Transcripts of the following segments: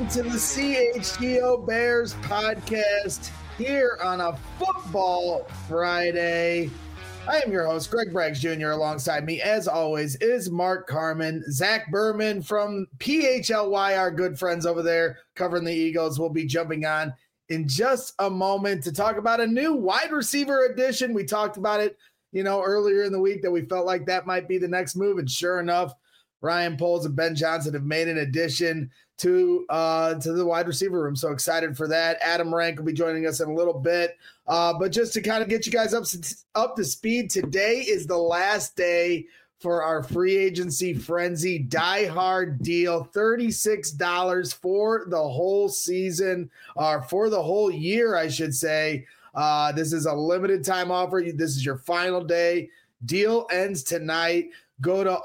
to the CHGO Bears podcast here on a Football Friday. I am your host, Greg Braggs Jr. Alongside me, as always, is Mark Carman. Zach Berman from PHLY, our good friends over there covering the Eagles, will be jumping on in just a moment to talk about a new wide receiver addition. We talked about it, earlier in the week that we felt like that might be the next move. And sure enough, Ryan Poles and Ben Johnson have made an addition to the wide receiver room. So excited for that. Adam Rank will be joining us in a little bit. But just to kind of get you guys up to speed, today is the last day for our free agency frenzy Die Hard deal. $36 for the whole season, or for the whole year, I should say. This is a limited time offer. This is your final day. Deal ends tonight. Go to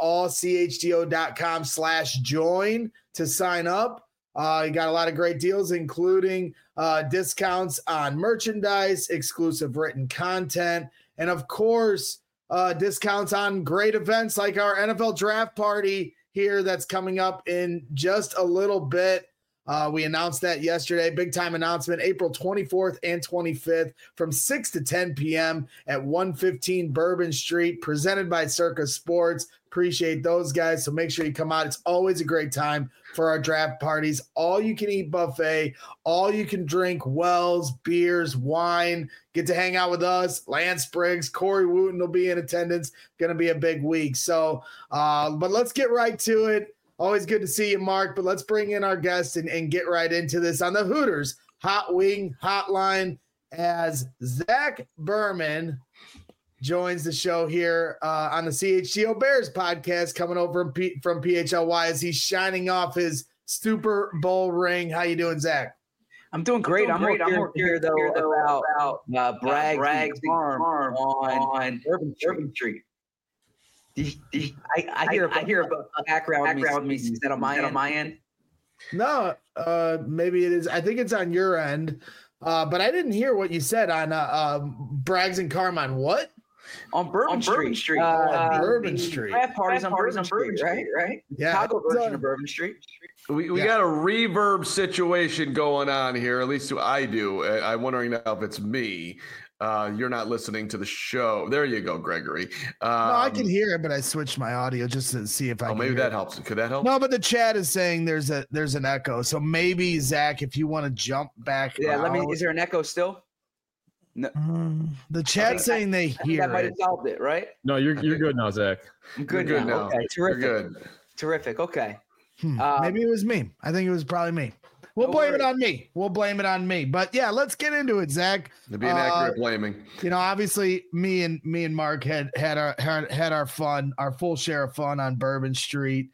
allchgo.com/join to sign up. You got a lot of great deals, including discounts on merchandise, exclusive written content, and of course, discounts on great events like our NFL draft party here that's coming up in just a little bit. We announced that yesterday. Big time announcement, April 24th and 25th from 6 to 10 p.m. at 115 Bourbon Street, presented by Circa Sports. Appreciate those guys. So make sure you come out. It's always a great time for our draft parties. All you can eat buffet, all you can drink wells, beers, wine. Get to hang out with us. Lance Briggs, Corey Wooten will be in attendance. Going to be a big week. So, but let's get right to it. Always good to see you, Mark, but let's bring in our guest and get right into this on the Hooters Hot Wing Hotline as Zach Berman joins the show here on the CHGO Bears podcast, coming over from PHLY as he's shining off his Super Bowl ring. How you doing, Zach? I'm doing great. I'm more here though about Bragg's farm on Urban Street. I hear about background music. Is that on my end? No, maybe it is. I think it's on your end, but I didn't hear what you said on Braggs and Carmine. What? On Bourbon Street. Bourbon Street. Draft parties on Bourbon Street, right? Yeah. Chicago version of Bourbon Street. We got a reverb situation going on here. At least I do. I'm wondering now if it's me. You're not listening to the show. There you go, Gregory. No, I can hear it, but I switched my audio just to see if I can maybe hear that it. helps. Could that help? No, but the chat is saying there's an echo. So maybe, Zach, if you want to jump back. Yeah, is there an echo still? No. The chat's saying they hear that might have solved it, right? No, you're good now, Zach. I'm good now. Okay, terrific. You're good. Terrific. Okay. Maybe it was me. I think it was probably me. We'll blame it on me. But yeah, let's get into it, Zach. To be an accurate blaming. Obviously, me and Mark had our fun, our full share of fun on Bourbon Street.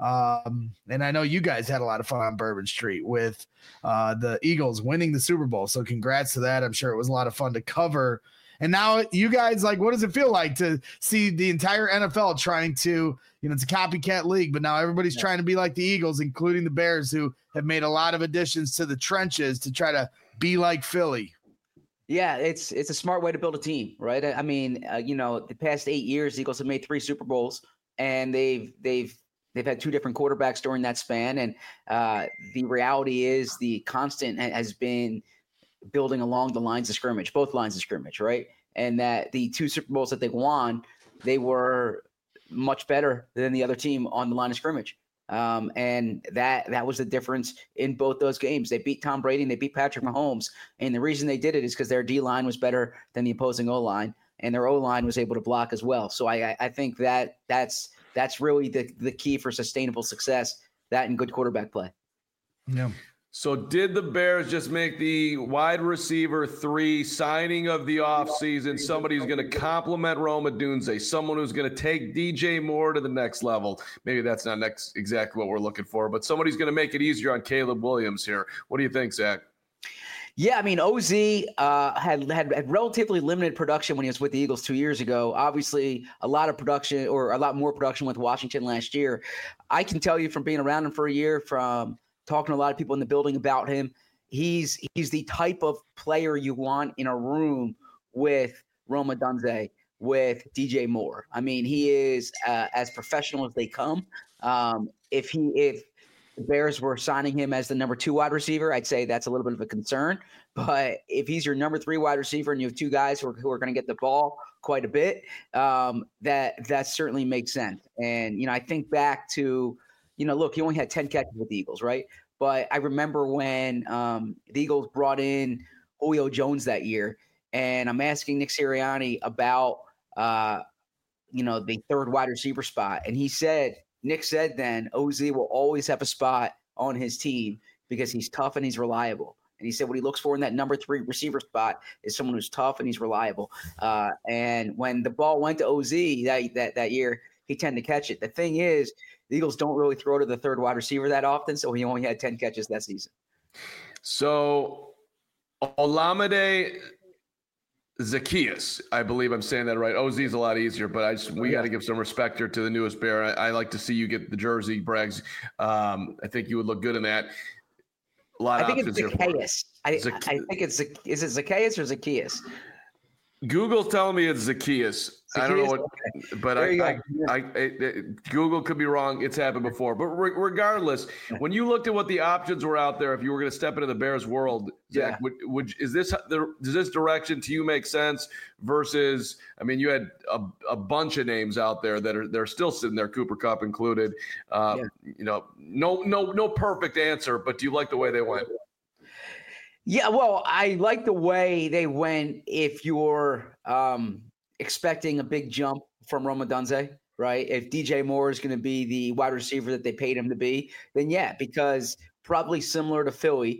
And I know you guys had a lot of fun on Bourbon Street with the Eagles winning the Super Bowl. So congrats to that. I'm sure it was a lot of fun to cover. And now you guys, what does it feel like to see the entire NFL trying to, it's a copycat league, but now everybody's trying to be like the Eagles, including the Bears, who have made a lot of additions to the trenches to try to be like Philly. Yeah, it's a smart way to build a team, right? I mean, the past 8 years, the Eagles have made 3 Super Bowls, and they've had 2 different quarterbacks during that span. And the reality is the constant has been building along the lines of scrimmage, both lines of scrimmage, right? And that the 2 Super Bowls that they won, they were much better than the other team on the line of scrimmage. And that was the difference in both those games. They beat Tom Brady and they beat Patrick Mahomes. And the reason they did it is because their D-line was better than the opposing O-line, and their O-line was able to block as well. So I think that's really the key for sustainable success, that and good quarterback play. Yeah. So did the Bears just make the wide receiver 3 signing of the offseason? Somebody who's going to complement Rome Odunze, someone who's going to take DJ Moore to the next level. Maybe that's not exactly what we're looking for, but somebody's going to make it easier on Caleb Williams here. What do you think, Zach? Yeah, I mean, OZ had relatively limited production when he was with the Eagles 2 years ago. Obviously, a lot of production, or a lot more production with Washington last year. I can tell you from being around him for a year, from talking to a lot of people in the building about him, he's the type of player you want in a room with Rome Odunze, with DJ Moore. I mean, he is as professional as they come. If the Bears were signing him as the number 2 wide receiver, I'd say that's a little bit of a concern. But if he's your number 3 wide receiver and you have 2 guys who are going to get the ball quite a bit, that certainly makes sense. And, I think back to, look, he only had 10 catches with the Eagles, right? But I remember when the Eagles brought in Julio Jones that year, and I'm asking Nick Sirianni about, the 3rd wide receiver spot. And Nick said then, OZ will always have a spot on his team because he's tough and he's reliable. And he said what he looks for in that number 3 receiver spot is someone who's tough and he's reliable. And when the ball went to OZ that year, he tended to catch it. The thing is, the Eagles don't really throw to the 3rd wide receiver that often, so he only had 10 catches that season. So Olamide Zaccheaus, I believe I'm saying that right. OZ is a lot easier, but we got to give some respect here to the newest Bear. I like to see you get the jersey, Braggs. I think you would look good in that. A lot of options here. I think it's is it Zaccheaus or Zaccheaus? Google's telling me it's Zaccheaus. I don't know what, but Google could be wrong. It's happened before. But regardless, when you looked at what the options were out there, if you were going to step into the Bears world, Zach, does this direction to you make sense? Versus, I mean, you had a bunch of names out there they're still sitting there, Cooper Kupp included. No perfect answer, but do you like the way they went? Yeah, well, I like the way they went if you're expecting a big jump from Rome Odunze, right? If DJ Moore is going to be the wide receiver that they paid him to be, then yeah, because probably similar to Philly,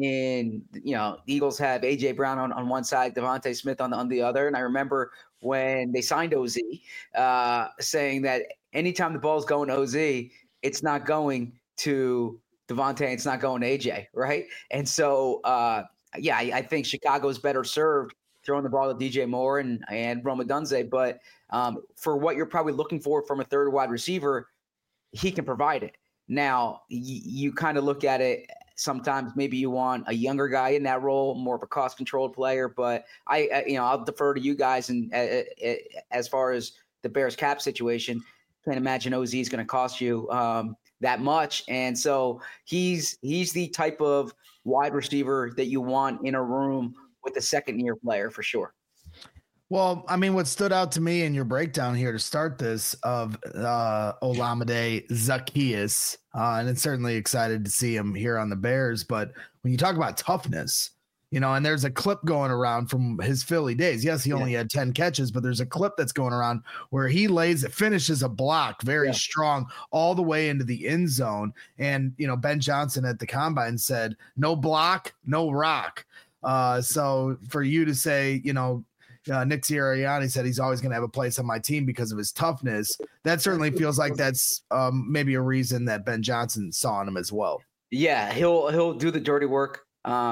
the Eagles have A.J. Brown on one side, Devontae Smith on the other. And I remember when they signed OZ saying that anytime the ball's going to OZ, it's not going to Devontae, it's not going to AJ, right? And so, I think Chicago's better served throwing the ball to DJ Moore and Rome Odunze. But for what you're probably looking for from a 3rd wide receiver, he can provide it. Now, you kind of look at it sometimes maybe you want a younger guy in that role, more of a cost-controlled player. But I'll defer to you guys. And as far as the Bears cap situation, can't imagine OZ is going to cost you that much. And so he's the type of wide receiver that you want in a room with a second-year player for sure. Well, I mean, what stood out to me in your breakdown here to start this of Olamide Zaccheaus, and it's certainly excited to see him here on the Bears. But when you talk about toughness, and there's a clip going around from his Philly days. Yes, he only had 10 catches, but there's a clip that's going around where he finishes a block very strong all the way into the end zone. And, Ben Johnson at the combine said, no block, no rock. So for you to say, Nick Sirianni said he's always going to have a place on my team because of his toughness. That certainly feels like that's maybe a reason that Ben Johnson saw in him as well. Yeah, he'll do the dirty work.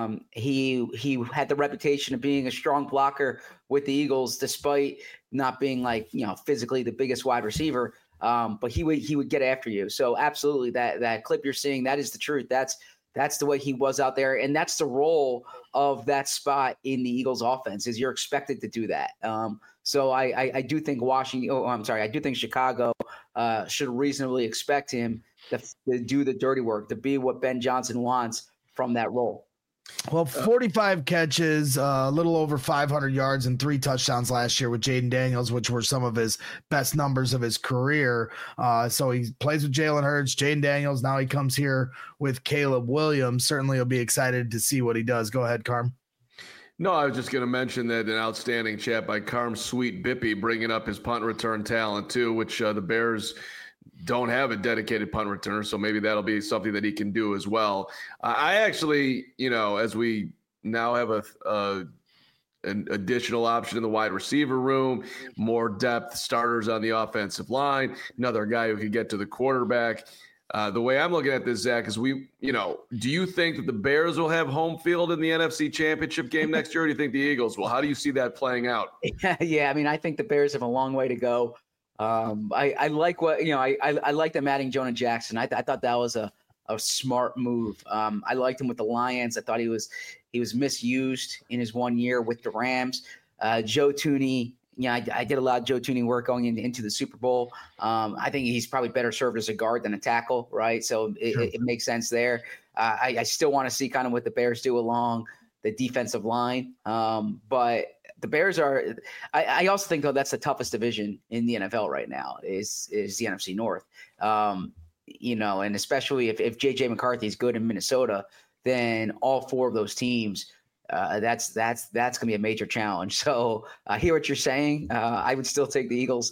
He had the reputation of being a strong blocker with the Eagles, despite not being physically the biggest wide receiver. But he would get after you. So absolutely, that clip you're seeing, that is the truth. That's the way he was out there, and that's the role of that spot in the Eagles' offense. Is you're expected to do that. So I do think I do think Chicago should reasonably expect him to do the dirty work, to be what Ben Johnson wants from that role. Well, 45 catches, a little over 500 yards and 3 touchdowns last year with Jaden Daniels, which were some of his best numbers of his career. So he plays with Jalen Hurts, Jaden Daniels. Now he comes here with Caleb Williams. Certainly he'll be excited to see what he does. Go ahead, Carm. No, I was just going to mention that an outstanding chat by Carm Sweet Bippy, bringing up his punt return talent too, which the Bears don't have a dedicated punt returner, so maybe that'll be something that he can do as well. I actually, as we now have an additional option in the wide receiver room, more depth, starters on the offensive line, another guy who could get to the quarterback. The way I'm looking at this, Zach, is do you think that the Bears will have home field in the NFC Championship game next year, or do you think the Eagles will? How do you see that playing out? Yeah, I mean, I think the Bears have a long way to go. I like what I like them adding Jonah Jackson. I thought that was a smart move. I liked him with the Lions. I thought he was misused in his 1 year with the Rams. Joe Thuney, I did a lot of Joe Thuney work going into the Super Bowl. I think he's probably better served as a guard than a tackle, right? So it makes sense there. I still want to see kind of what the Bears do along the defensive line. But the Bears are – I also think, though, that's the toughest division in the NFL right now is the NFC North. And especially if J.J. McCarthy is good in Minnesota, then all four of those teams – that's going to be a major challenge. So I hear what you're saying. I would still take the Eagles.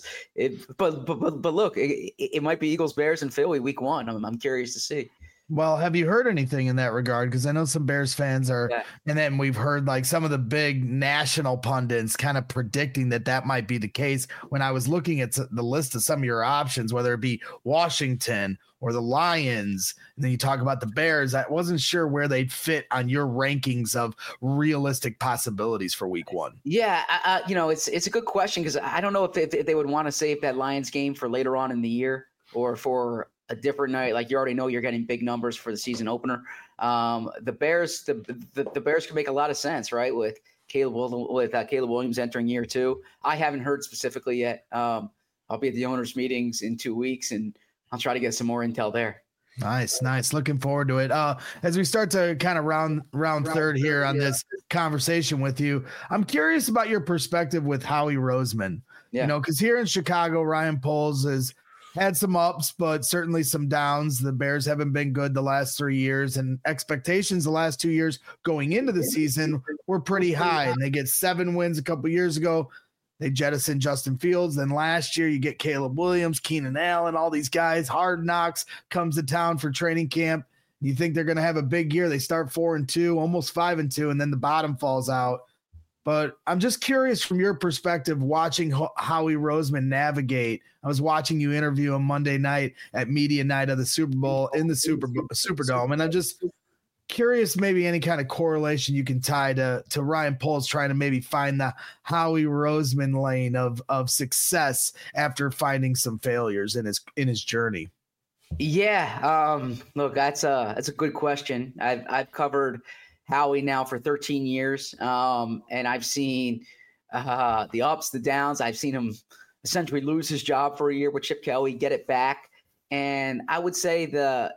But look, it might be Eagles, Bears, and Philly week 1. I'm curious to see. Well, have you heard anything in that regard? Because I know some Bears fans are, and then we've heard like some of the big national pundits kind of predicting that might be the case. When I was looking at the list of some of your options, whether it be Washington or the Lions, and then you talk about the Bears, I wasn't sure where they'd fit on your rankings of realistic possibilities for week 1. Yeah, it's a good question because I don't know if they would want to save that Lions game for later on in the year or for a different night. Like you already know you're getting big numbers for the season opener. The Bears can make a lot of sense, right? With Caleb Williams entering year 2. I haven't heard specifically yet. I'll be at the owners' meetings in 2 weeks, and I'll try to get some more intel there. Nice. Looking forward to it. As we start to kind of round third here on this conversation with you, I'm curious about your perspective with Howie Roseman. Because here in Chicago, Ryan Poles has had some ups, but certainly some downs. The Bears haven't been good the last 3 years, and expectations the last 2 years going into the season were pretty high. And they get 7 wins a couple years ago. They jettisoned Justin Fields. Then last year you get Caleb Williams, Keenan Allen, all these guys. Hard Knocks comes to town for training camp. You think they're going to have a big year. They start 4-2, almost 5-2, and then the bottom falls out. But I'm just curious from your perspective, watching Howie Roseman navigate. I was watching you interview him Monday night at media night of the Super Bowl in the Superdome, and I'm just curious maybe any kind of correlation you can tie to Ryan Poles trying to maybe find the Howie Roseman lane of success after finding some failures in his journey. Yeah, look, that's a good question. I've covered Howie now for 13 years. And I've seen the ups, the downs. I've seen him essentially lose his job for a year with Chip Kelly, get it back. And I would say the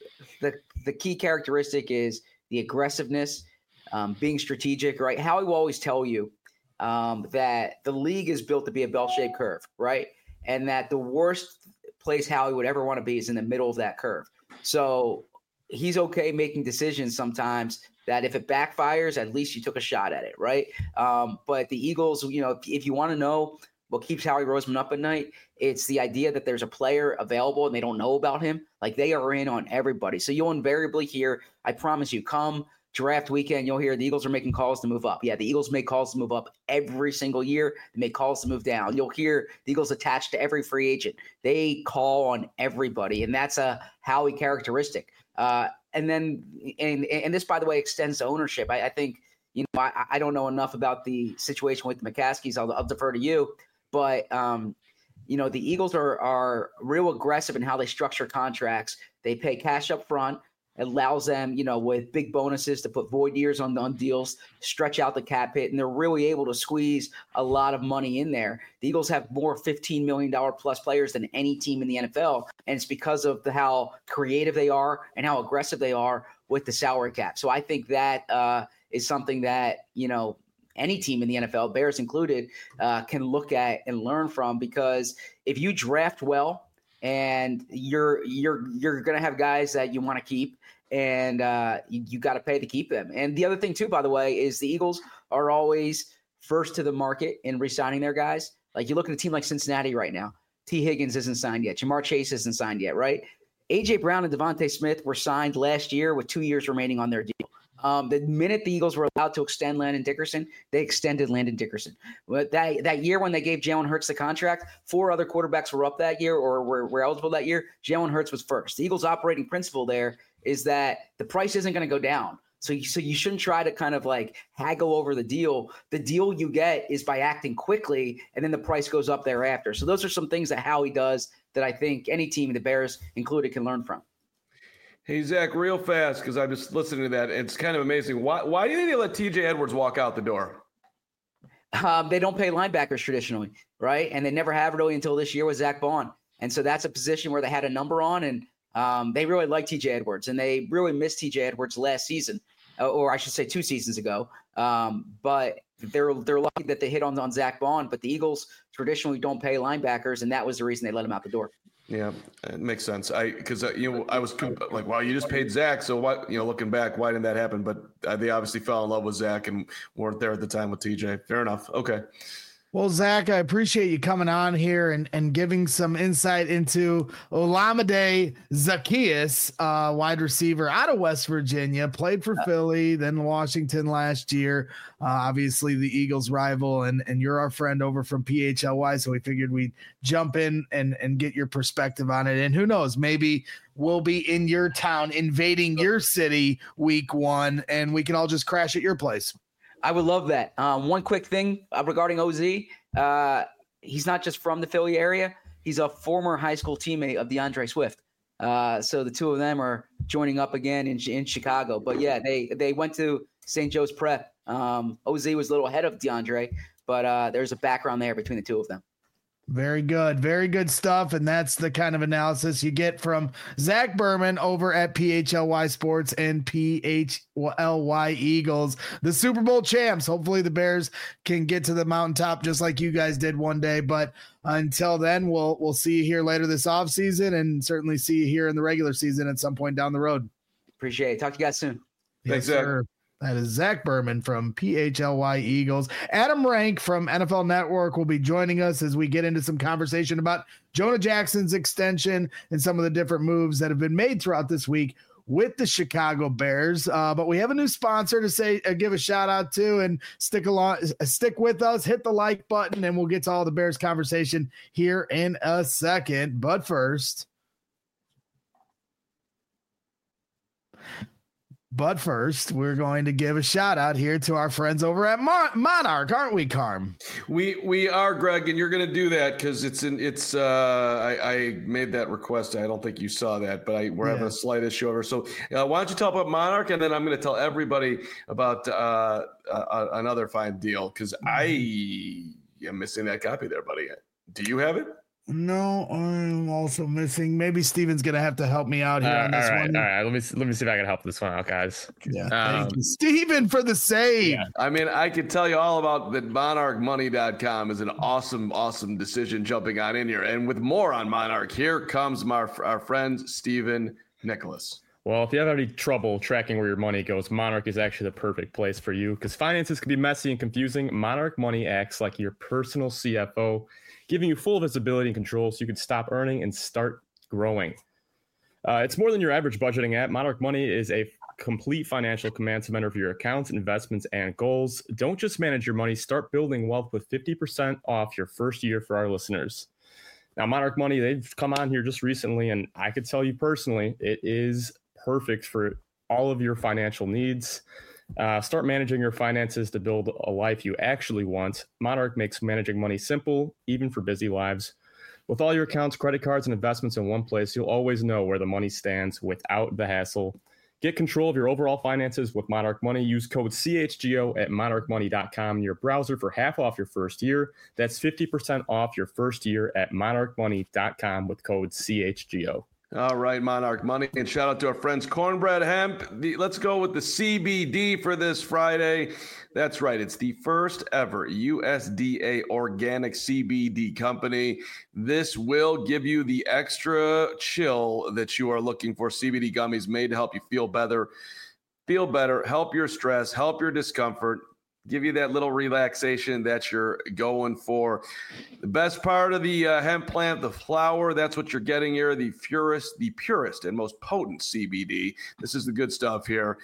key characteristic is the aggressiveness, being strategic, right? Howie will always tell you that the league is built to be a bell-shaped curve, right? And that the worst place Howie would ever want to be is in the middle of that curve. So he's okay making decisions sometimes that if it backfires, at least you took a shot at it, right? But the Eagles, if you want to know what keeps Howie Roseman up at night, it's the idea that there's a player available and they don't know about him. Like they are in on everybody. So you'll invariably hear, I promise you, come draft weekend, you'll hear the Eagles are making calls to move up. Yeah, the Eagles make calls to move up every single year. They make calls to move down. You'll hear the Eagles attached to every free agent. They call on everybody, and that's a Howie characteristic. And then, and this, by the way, extends to ownership. I think, I don't know enough about the situation with the McCaskies. I'll defer to you. But, the Eagles are real aggressive in how they structure contracts. They pay cash up front. It allows them, with big bonuses to put void years on deals, stretch out the cap hit, and they're really able to squeeze a lot of money in there. The Eagles have more $15 million plus players than any team in the NFL, and it's because of how creative they are and how aggressive they are with the salary cap. So I think that is something that, any team in the NFL, Bears included, can look at and learn from, because if you draft well and you're going to have guys that you want to keep, and you got to pay to keep them. And the other thing too, by the way, is the Eagles are always first to the market in re-signing their guys. Like you look at a team like Cincinnati right now, T. Higgins isn't signed yet. Jamar Chase isn't signed yet, right? A.J. Brown and Devontae Smith were signed last year with 2 years remaining on their deal. The minute the Eagles were allowed to extend Landon Dickerson, they extended Landon Dickerson. But that year when they gave Jalen Hurts the contract, 4 other quarterbacks were up that year or were eligible that year. Jalen Hurts was first. The Eagles' operating principle there is that the price isn't going to go down. So you shouldn't try to kind of like haggle over the deal. The deal you get is by acting quickly, and then the price goes up thereafter. So those are some things that Howie does that I think any team, the Bears included, can learn from. Hey, Zach, real fast, because I'm just listening to that. It's kind of amazing. Why do you think they let TJ Edwards walk out the door? They don't pay linebackers traditionally, right? And they never have really until this year with Zach Bond. And so that's a position where they had a number on, and they really like TJ Edwards, and they really missed TJ Edwards last season, or I should say 2 seasons ago. But they're lucky that they hit on Zach Bond, but the Eagles traditionally don't pay linebackers, and that was the reason they let him out the door. Yeah, it makes sense. I was like, wow, you just paid Zach. So what, looking back, why didn't that happen? But they obviously fell in love with Zach and weren't there at the time with TJ. Fair enough. Okay. Well, Zach, I appreciate you coming on here and giving some insight into Olamide Zaccheaus, wide receiver out of West Virginia, played for Philly, then Washington last year. Obviously, the Eagles' rival, and you're our friend over from PHLY, so we figured we'd jump in and get your perspective on it. And who knows, maybe we'll be in your town, invading your city week 1, and we can all just crash at your place. I would love that. One quick thing regarding OZ. He's not just from the Philly area. He's a former high school teammate of DeAndre Swift. So the two of them are joining up again in Chicago. But, yeah, they went to St. Joe's Prep. OZ was a little ahead of DeAndre, but there's a background there between the two of them. Very good. Very good stuff. And that's the kind of analysis you get from Zach Berman over at PHLY Sports and PHLY Eagles, the Super Bowl champs. Hopefully the Bears can get to the mountaintop just like you guys did one day. But until then, we'll see you here later this offseason and certainly see you here in the regular season at some point down the road. Appreciate it. Talk to you guys soon. Thanks, Zach. Sir. That is Zach Berman from PHLY Eagles. Adam Rank from NFL Network will be joining us as we get into some conversation about Jonah Jackson's extension and some of the different moves that have been made throughout this week with the Chicago Bears. But we have a new sponsor to give a shout out to, and stick with us, hit the like button, and we'll get to all the Bears conversation here in a second. But first, we're going to give a shout out here to our friends over at Monarch, aren't we, Carm? We are, Greg, and you're going to do that because I made that request. I don't think you saw that, but we're having a slight issue over. So why don't you tell about Monarch, and then I'm going to tell everybody about another fine deal because I am missing that copy there, buddy. Do you have it? No, I'm also missing. Maybe Steven's gonna have to help me out here on this one. All right. Let me see if I can help this one out, guys. Yeah, thank you, Steven, for the save. Yeah. I mean, I could tell you all about that. MonarchMoney.com is an awesome decision jumping on in here. And with more on Monarch, here comes our friend Steven Nicholas. Well, if you have any trouble tracking where your money goes, Monarch is actually the perfect place for you because finances can be messy and confusing. Monarch Money acts like your personal CFO, giving you full visibility and control so you can stop earning and start growing. It's more than your average budgeting app. Monarch Money is a complete financial command center for your accounts, investments, and goals. Don't just manage your money. Start building wealth with 50% off your first year for our listeners. Now, Monarch Money, they've come on here just recently, and I could tell you personally, it is perfect for all of your financial needs. Start managing your finances to build a life you actually want. Monarch makes managing money simple, even for busy lives. With all your accounts, credit cards, and investments in one place, you'll always know where the money stands without the hassle. Get control of your overall finances with Monarch Money. Use code CHGO at monarchmoney.com in your browser for half off your first year. That's 50% off your first year at monarchmoney.com with code CHGO. All right, Monarch Money, and shout out to our friends Cornbread Hemp. Let's go with the CBD for this Friday. That's right. It's the first ever USDA organic CBD company. This will give you the extra chill that you are looking for. CBD gummies made to help you feel better, help your stress, help your discomfort, give you that little relaxation that you're going for. The best part of the hemp plant, the flower, that's what you're getting here, the purest and most potent CBD. This is the good stuff here.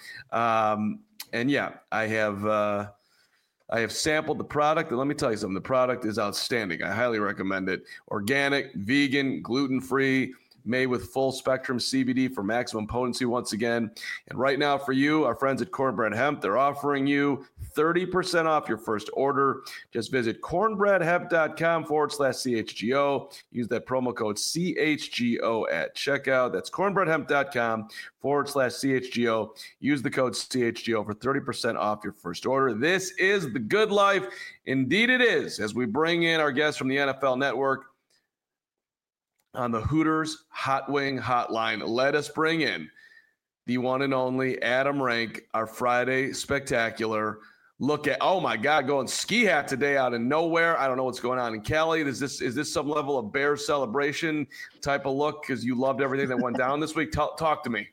And yeah, I have sampled the product, and let me tell you something. The product is outstanding. I highly recommend it. Organic, vegan, gluten-free, made with full spectrum CBD for maximum potency once again. And right now for you, our friends at Cornbread Hemp, they're offering you 30% off your first order. Just visit cornbreadhemp.com/CHGO. Use that promo code CHGO at checkout. That's cornbreadhemp.com/CHGO. Use the code CHGO for 30% off your first order. This is the good life. Indeed it is, as we bring in our guests from the NFL Network on the Hooters Hot Wing Hotline. Let us bring in the one and only Adam Rank, our Friday spectacular. Look at, oh my God, going ski hat today out of nowhere. I don't know what's going on in Cali. Is this some level of Bears celebration type of look because you loved everything that went down this week? Talk to me.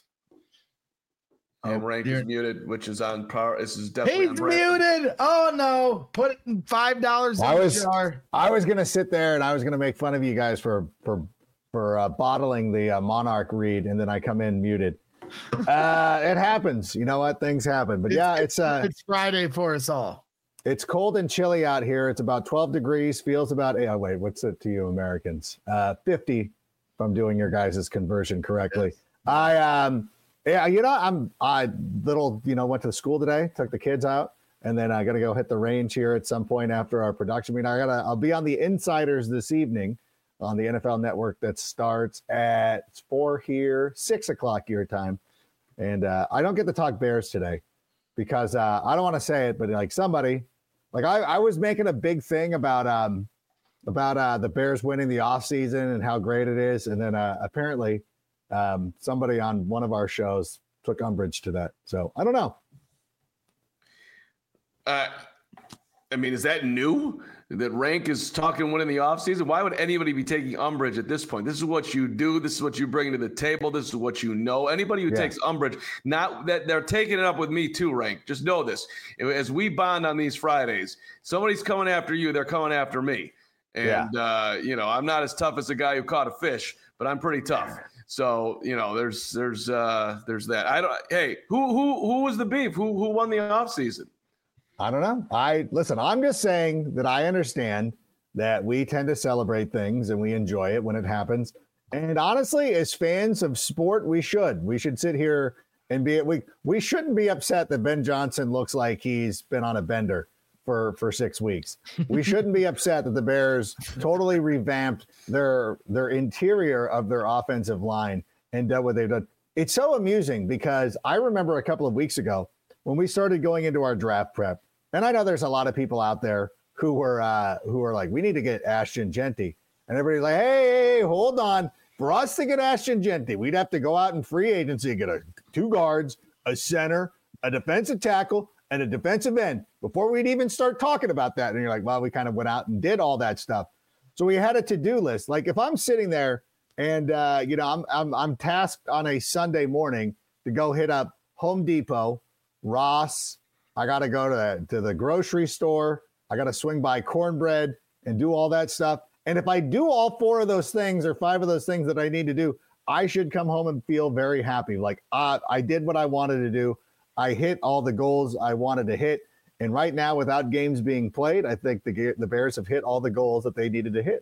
Rank is muted, which is on power. This is definitely He's muted. Oh no! Put $5 in the jar. I was gonna sit there and I was gonna make fun of you guys for bottling the Monarch read, and then I come in muted. It happens. You know what? Things happen. But yeah, it's Friday for us all. It's cold and chilly out here. It's about 12 degrees. Feels about what's it to you Americans? 50. If I'm doing your guys' conversion correctly. Yes. Yeah, I went to school today, took the kids out, and then I got to go hit the range here at some point after our production meeting. I'll be on the Insiders this evening on the NFL Network that starts at 4 here, 6 o'clock your time. And I don't get to talk Bears today because I don't want to say it, but I was making a big thing about the Bears winning the offseason and how great it is. And then apparently somebody on one of our shows took umbrage to that. So I don't know. Is that new? That Rank is talking winning the offseason? Why would anybody be taking umbrage at this point? This is what you do. This is what you bring to the table. This is what you know. Anybody who takes umbrage, not that they're taking it up with me too, Rank. Just know this. As we bond on these Fridays, somebody's coming after you. They're coming after me. And, I'm not as tough as the guy who caught a fish, but I'm pretty tough. So, there's that. Hey, who was the beef? Who won the offseason? I don't know. I'm just saying that I understand that we tend to celebrate things and we enjoy it when it happens. And honestly, as fans of sport, we should sit here and we shouldn't be upset that Ben Johnson looks like he's been on a bender for 6 weeks. We shouldn't be upset that the Bears totally revamped their interior of their offensive line and done what they've done. It's so amusing because I remember a couple of weeks ago when we started going into our draft prep, and I know there's a lot of people out there who were like, we need to get Ashton Jeanty. And everybody's like, hey, hold on. For us to get Ashton Jeanty, we'd have to go out in free agency and get 2 guards, a center, a defensive tackle, and a defensive end before we'd even start talking about that. And you're like, well, we kind of went out and did all that stuff. So we had a to-do list. Like if I'm sitting there and, I'm tasked on a Sunday morning to go hit up Home Depot, Ross, I got to go to the grocery store. I got to swing by Cornbread and do all that stuff. And if I do all 4 of those things or 5 of those things that I need to do, I should come home and feel very happy. Like I did what I wanted to do. I hit all the goals I wanted to hit. And right now, without games being played, I think the Bears have hit all the goals that they needed to hit.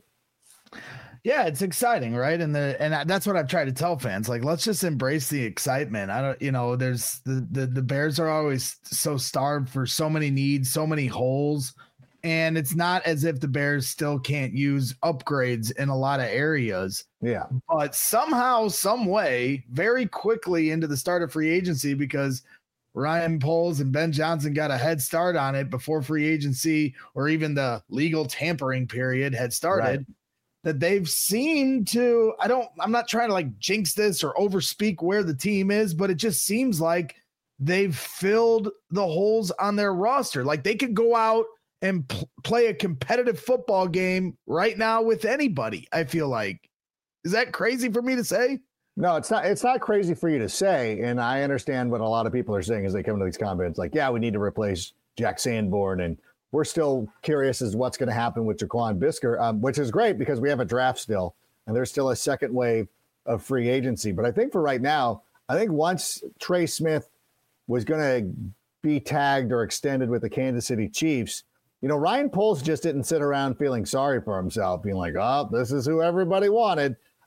Yeah, it's exciting, right? And that's what I've tried to tell fans. Like, let's just embrace the excitement. There's the Bears are always so starved for so many needs, so many holes. And it's not as if the Bears still can't use upgrades in a lot of areas. Yeah. But somehow, some way, very quickly into the start of free agency, because Ryan Poles and Ben Johnson got a head start on it before free agency or even the legal tampering period had started. Right. That they've seemed to, I'm not trying to like jinx this or overspeak where the team is, but it just seems like they've filled the holes on their roster. Like they could go out and play a competitive football game right now with anybody. I feel like, is that crazy for me to say? No, it's not. It's not crazy for you to say. And I understand what a lot of people are saying as they come to these comments. Like, yeah, we need to replace Jack Sanborn, and we're still curious as to what's going to happen with Jaquan Brisker, which is great because we have a draft still, and there's still a second wave of free agency. But I think for right now, I think once Trey Smith was going to be tagged or extended with the Kansas City Chiefs, Ryan Poles just didn't sit around feeling sorry for himself, being like, oh, this is who everybody wanted.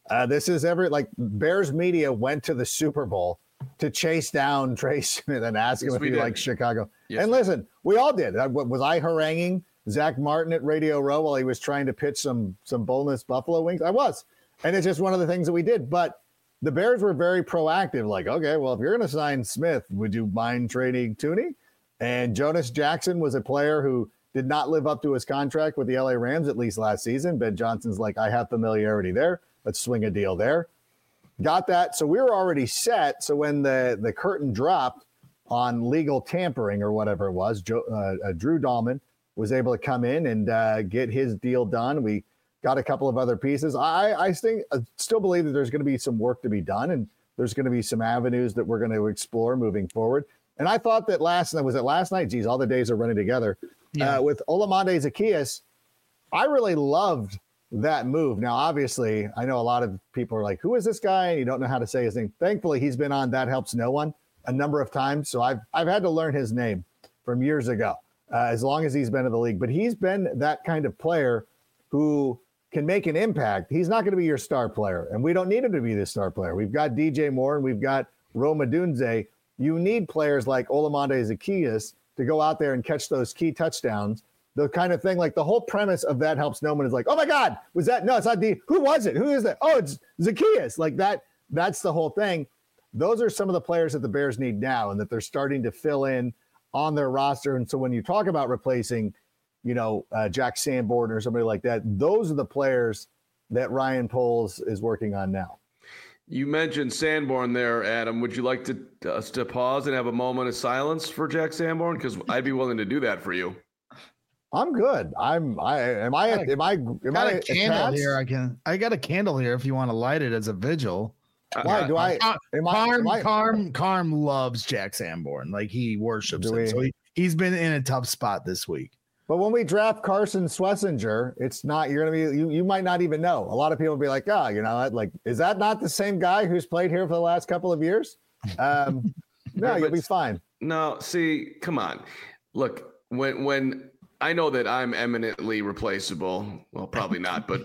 This is Bears media went to the Super Bowl to chase down Trey Smith and ask him if he likes Chicago. Yes, and listen, we all did. Was I haranguing Zach Martin at Radio Row while he was trying to pitch some boneless buffalo wings? I was. And it's just one of the things that we did. But the Bears were very proactive. Like, okay, well, if you're going to sign Smith, would you mind trading Tooney? And Jonas Jackson was a player who did not live up to his contract with the LA Rams, at least last season. Ben Johnson's like, I have familiarity there. Let's swing a deal there. Got that. So we were already set. So when the curtain dropped on legal tampering or whatever it was, Drew Dahlman was able to come in and get his deal done. We got a couple of other pieces. I still believe that there's going to be some work to be done, and there's going to be some avenues that we're going to explore moving forward. And I thought that last night? Geez, all the days are running together. Yeah. With Olamide Zaccheaus, I really loved that move. Now, obviously, I know a lot of people are like, who is this guy? And you don't know how to say his name. Thankfully, he's been on That Helps No One a number of times. So I've had to learn his name from years ago, as long as he's been in the league. But he's been that kind of player who can make an impact. He's not going to be your star player, and we don't need him to be the star player. We've got DJ Moore and we've got Rome Odunze. You need players like Olamide Zaccheaus to go out there and catch those key touchdowns. The kind of thing, like the whole premise of That Helps No One is like, oh my God, was that? No, it's not who was it? Who is that? Oh, it's Zaccheaus. Like that. That's the whole thing. Those are some of the players that the Bears need now and that they're starting to fill in on their roster. And so when you talk about replacing, Jack Sanborn or somebody like that, those are the players that Ryan Poles is working on now. You mentioned Sanborn there, Adam. Would you like us to pause and have a moment of silence for Jack Sanborn? Because I'd be willing to do that for you. I'm good. I got a candle here. I got a candle here if you want to light it as a vigil. Why do I? Carm loves Jack Sanborn. Like he worships him. So he's been in a tough spot this week. But when we draft Carson Schlesinger, it's not, you're going to be, you might not even know. A lot of people will be like, oh, like, is that not the same guy who's played here for the last couple of years? No, you'll be fine. No, see, come on. Look, when I know that I'm eminently replaceable. Well, probably not, but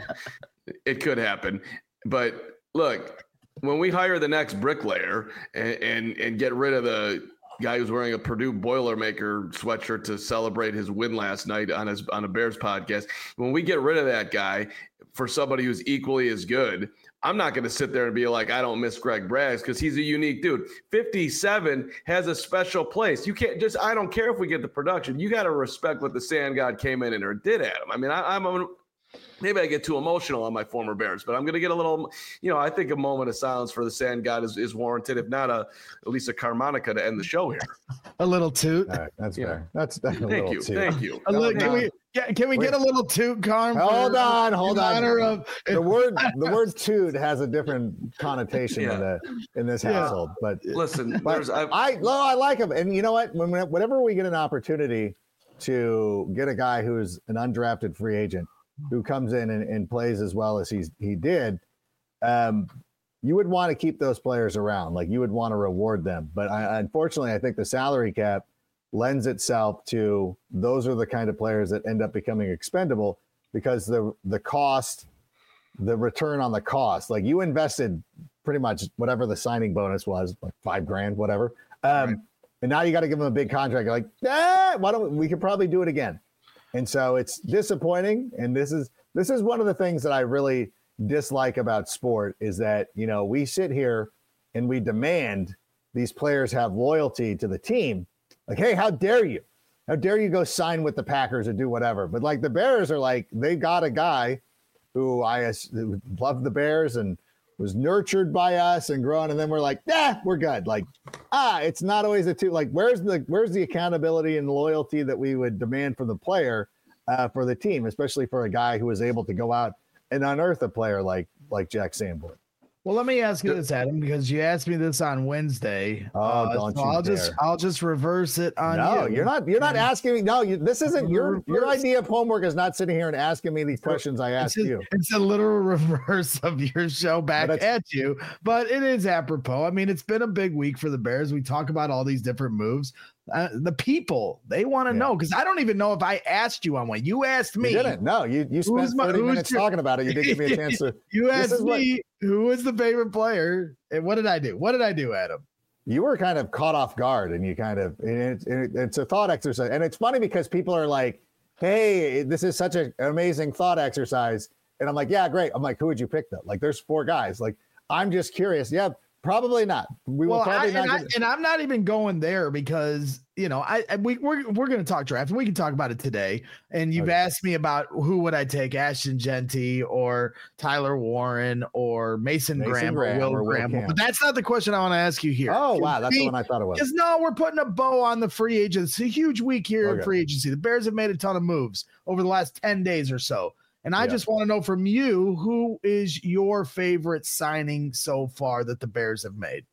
it could happen. But look, when we hire the next bricklayer and get rid of the guy who's wearing a Purdue Boilermaker sweatshirt to celebrate his win last night on a Bears podcast, when we get rid of that guy for somebody who's equally as good, I'm not going to sit there and be like, I don't miss Greg Braggs, because he's a unique dude. 57 has a special place. You can't just, I don't care if we get the production. You got to respect what the Sand God came in and or did at him. I mean, maybe I get too emotional on my former Bears, but I'm going to get a little, I think a moment of silence for the Sand God is warranted, if not at least a harmonica to end the show here. A little toot. All right, that's fair. That's definitely Thank you. Toot. Thank you. Can we get a little toot, Carm? Hold on. The word toot has a different connotation in this household. But listen, I like him, and you know what? Whenever we get an opportunity to get a guy who's an undrafted free agent who comes in and plays as well as he did, you would want to keep those players around. Like, you would want to reward them. But unfortunately, I think the salary cap lends itself to those are the kind of players that end up becoming expendable, because the cost, the return on the cost, like you invested pretty much whatever the signing bonus was, like $5,000, whatever. Right. And now you got to give them a big contract. You're like, why don't we could probably do it again. And so it's disappointing. And this is one of the things that I really dislike about sport is that, we sit here and we demand these players have loyalty to the team. Like, hey, how dare you? How dare you go sign with the Packers or do whatever? But like the Bears are like, they got a guy who loved the Bears and was nurtured by us and grown. And then we're like, we're good. Like, it's not always a two. Like, where's the accountability and loyalty that we would demand from the player for the team, especially for a guy who was able to go out and unearth a player like Jack Sanborn? Well, let me ask you this, Adam, because you asked me this on Wednesday. I'll just reverse it on you. No, you're not asking me. No, this isn't your idea of homework is not sitting here and asking me these questions I asked you. It's a literal reverse of your show back at you, but it is apropos. I mean, it's been a big week for the Bears. We talk about all these different moves. The people, they want to know, because I don't even know if I asked you on one. You asked me. You didn't. No, you spent 30 minutes talking about it. You didn't give me a chance to. You asked me who was the favorite player, and what did I do? What did I do, Adam? You were kind of caught off guard, and you kind of it's a thought exercise. And it's funny because people are like, hey, this is such an amazing thought exercise. And I'm like, yeah, great. I'm like, who would you pick though? Like, there's 4 guys. Like, I'm just curious. Yeah, probably not. And I'm not even going there because, you know, we're going to talk draft and we can talk about it today. And you've asked me about who would I take, Ashton Genty or Tyler Warren or Mason Graham or Will Graham. But that's not the question I want to ask you here. Oh, wow. That's the one I thought it was. Because no, we're putting a bow on the free agents. It's a huge week here in free agency. The Bears have made a ton of moves over the last 10 days or so. And I just want to know from you, who is your favorite signing so far that the Bears have made?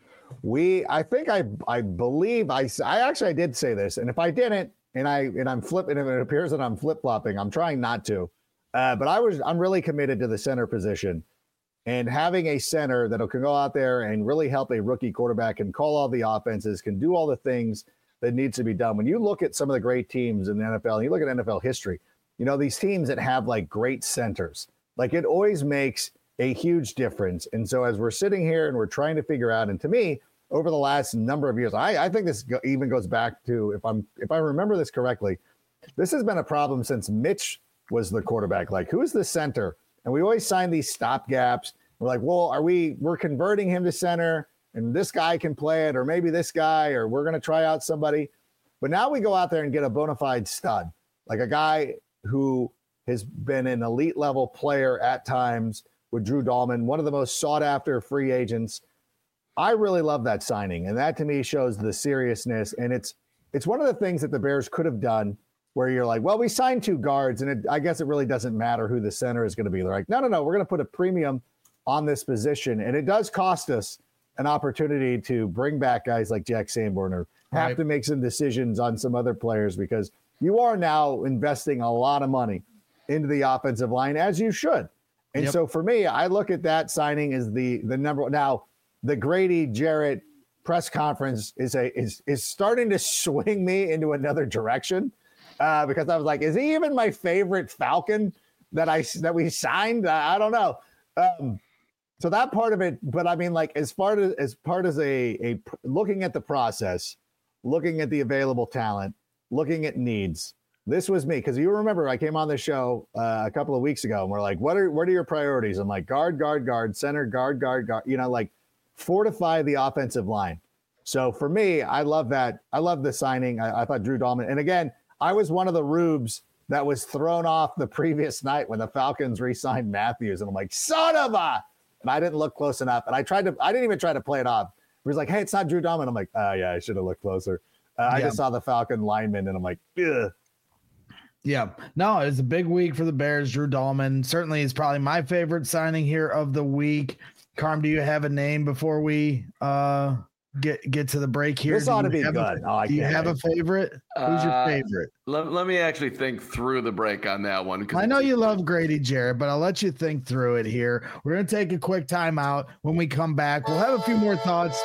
I believe I actually did say this, and if I didn't, and I'm flipping, and it appears that I'm flip-flopping, I'm trying not to, but I'm really committed to the center position, and having a center that can go out there and really help a rookie quarterback and call all the offenses, can do all the things that needs to be done. When you look at some of the great teams in the NFL, and you look at NFL history, you know, these teams that have like great centers, like it always makes a huge difference. And so as we're sitting here and we're trying to figure out, and to me, over the last number of years, I think this even goes back to, if I remember this correctly, this has been a problem since Mitch was the quarterback. Like, who's the center? And we always sign these stopgaps. We're like, well, we're converting him to center and this guy can play it, or maybe this guy, or we're going to try out somebody. But now we go out there and get a bona fide stud, like a guy who has been an elite level player at times with Drew Dahlman, one of the most sought after free agents. I really love that signing. And that to me shows the seriousness. And it's one of the things that the Bears could have done where you're like, well, we signed 2 guards and I guess it really doesn't matter who the center is going to be. They're like, no, we're going to put a premium on this position. And it does cost us an opportunity to bring back guys like Jack Sanborn or have to make some decisions on some other players, because you are now investing a lot of money into the offensive line, as you should. And so for me, I look at that signing as the number one. Now, the Grady Jarrett press conference is starting to swing me into another direction because I was like, is he even my favorite Falcon that we signed? I don't know. So that part of it, but I mean, like as part as a looking at the process, looking at the available talent, looking at needs. This was me, because you remember I came on the show a couple of weeks ago and we're like, what are your priorities? I'm like, guard, center, guard, you know, like fortify the offensive line. So for me, I love that. I love the signing. I thought Drew Dahlman, and again, I was one of the rubes that was thrown off the previous night when the Falcons re-signed Matthews. And I'm like, son of a, and I didn't look close enough. And I didn't even try to play it off. He was like, hey, it's not Drew Dahlman. I'm like, oh yeah, I should have looked closer. I just saw the Falcon lineman and I'm like, ugh. Yeah, no, it's a big week for the Bears. Drew Dahlman certainly is probably my favorite signing here of the week. Carm, do you have a name before we get to the break here? This ought to be good. Do you have a favorite? Who's your favorite? Let me actually think through the break on that one. I know you love Grady Jarrett, but I'll let you think through it here. We're going to take a quick timeout. When we come back, we'll have a few more thoughts.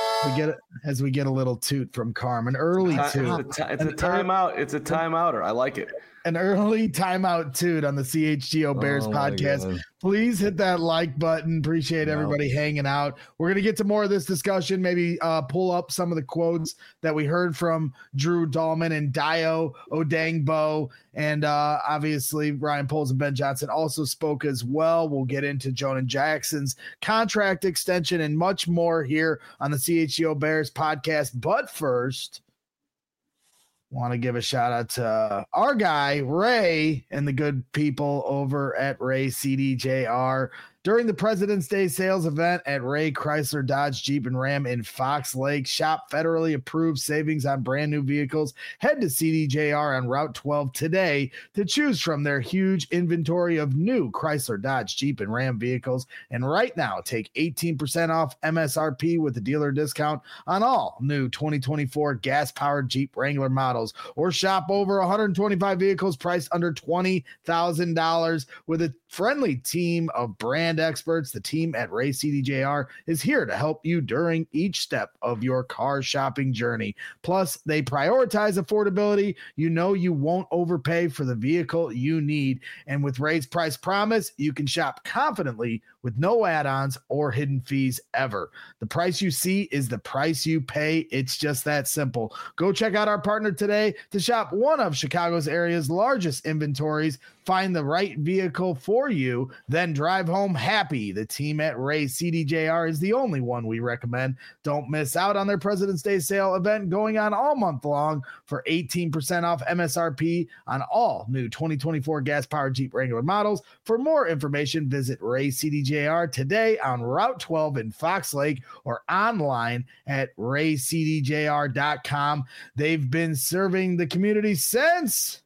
As we get a little toot from Carmen, early toot. It's a timeout. It's a timeouter. I like it. An early timeout toot on the CHGO Bears podcast. Please hit that like button. Appreciate everybody hanging out. We're going to get to more of this discussion, maybe pull up some of the quotes that we heard from Drew Dahlman and Dayo Odeyingbo. And obviously Ryan Poles and Ben Johnson also spoke as well. We'll get into Jonah Jackson's contract extension and much more here on the CHGO Bears podcast. But first, want to give a shout out to our guy, Ray, and the good people over at Ray CDJR. During the President's Day sales event at Ray Chrysler Dodge Jeep and Ram in Fox Lake, shop federally approved savings on brand new vehicles. Head to CDJR on Route 12 today to choose from their huge inventory of new Chrysler Dodge Jeep and Ram vehicles. And right now, take 18% off MSRP with a dealer discount on all new 2024 gas-powered Jeep Wrangler models, or shop over 125 vehicles priced under $20,000 with a friendly team of brand brand experts, the team at Ray CDJR is here to help you during each step of your car shopping journey. Plus, they prioritize affordability. You know you won't overpay for the vehicle you need. And with Ray's Price Promise, you can shop confidently with no add-ons or hidden fees ever. The price you see is the price you pay. It's just that simple. Go check out our partner today to shop one of Chicago's area's largest inventories. Find the right vehicle for you, then drive home happy. The team at Ray CDJR is the only one we recommend. Don't miss out on their President's Day sale event going on all month long for 18% off MSRP on all new 2024 gas-powered Jeep Wrangler models. For more information, visit Ray CDJR today on Route 12 in Fox Lake or online at raycdjr.com. They've been serving the community since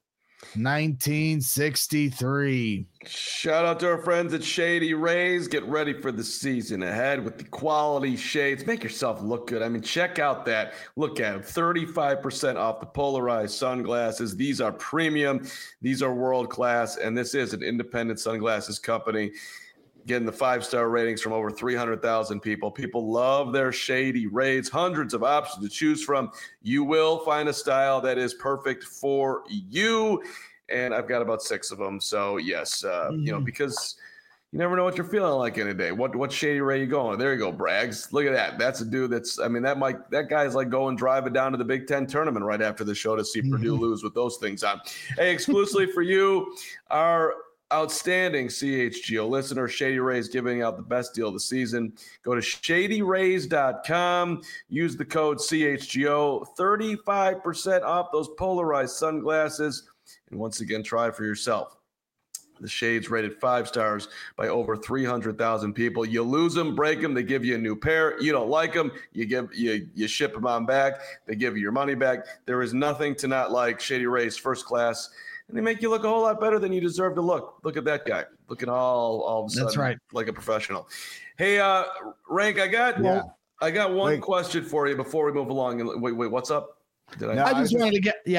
1963. Shout out to our friends at Shady Rays. Get ready for the season ahead with the quality shades. Make yourself look good. I mean, check out that. Look at them. 35% off the polarized sunglasses. These are premium. These are world-class. And this is an independent sunglasses company getting the 5-star ratings from over 300,000 people. People love their Shady Rays. Hundreds of options to choose from. You will find a style that is perfect for you. And I've got about 6 of them. So, yes, because you never know what you're feeling like in a day. What Shady Ray you going? There you go, Braggs. Look at that. That's a dude that guy's like going driving down to the Big Ten tournament right after the show to see Purdue lose with those things on. Hey, exclusively for you, our outstanding CHGO listener, Shady Rays giving out the best deal of the season. Go to shadyrays.com. Use the code CHGO. 35% off those polarized sunglasses. And once again, try it for yourself. The shades rated 5 stars by over 300,000 people. You lose them, break them, they give you a new pair. You don't like them, you ship them on back. They give you your money back. There is nothing to not like. Shady Rays, first class. And they make you look a whole lot better than you deserve to look. Look at that guy, looking all of a sudden. That's right. Like a professional. Hey, Rank, I got one question for you before we move along. Wait, what's up? I just wanted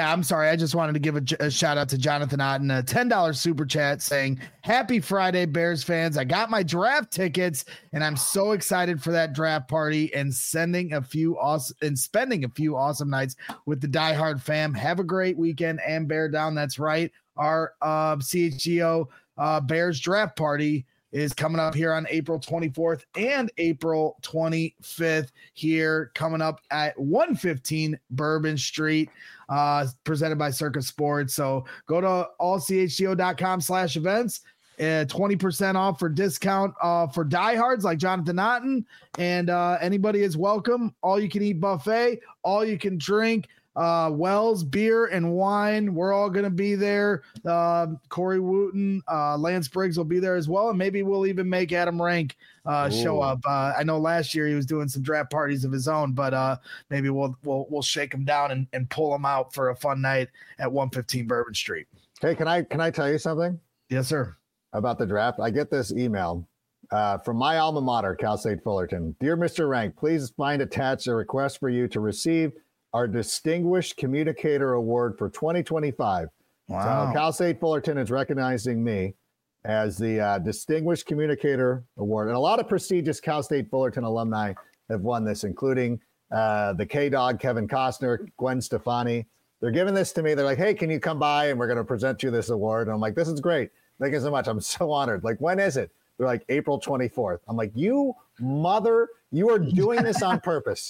to give a shout out to Jonathan Otten, a $10 super chat saying, "Happy Friday, Bears fans. I got my draft tickets and I'm so excited for that draft party and spending a few awesome nights with the diehard fam. Have a great weekend and bear down." That's right. Our CHGO Bears draft party is coming up here on April 24th and April 25th here, coming up at 115 Bourbon Street, presented by Circus Sports. So go to allchgo.com/events, 20% off for discount for diehards like Jonathan Otten, and anybody is welcome. All you can eat buffet, all you can drink. Wells beer and wine. We're all going to be there. Corey Wooten, Lance Briggs will be there as well. And maybe we'll even make Adam Rank show up. I know last year he was doing some draft parties of his own, but maybe we'll shake him down and pull him out for a fun night at 115 Bourbon Street. Hey, can I tell you something? Yes, sir. About the draft. I get this email from my alma mater, Cal State Fullerton. "Dear Mr. Rank, please find attached a request for you to receive our Distinguished Communicator Award for 2025. Wow. So Cal State Fullerton is recognizing me as the Distinguished Communicator Award. And a lot of prestigious Cal State Fullerton alumni have won this, including the K-Dog, Kevin Costner, Gwen Stefani. They're giving this to me. They're like, "Hey, can you come by and we're going to present you this award?" And I'm like, "This is great. Thank you so much. I'm so honored." Like, "When is it?" They're like, "April 24th. I'm like, you are doing this on purpose.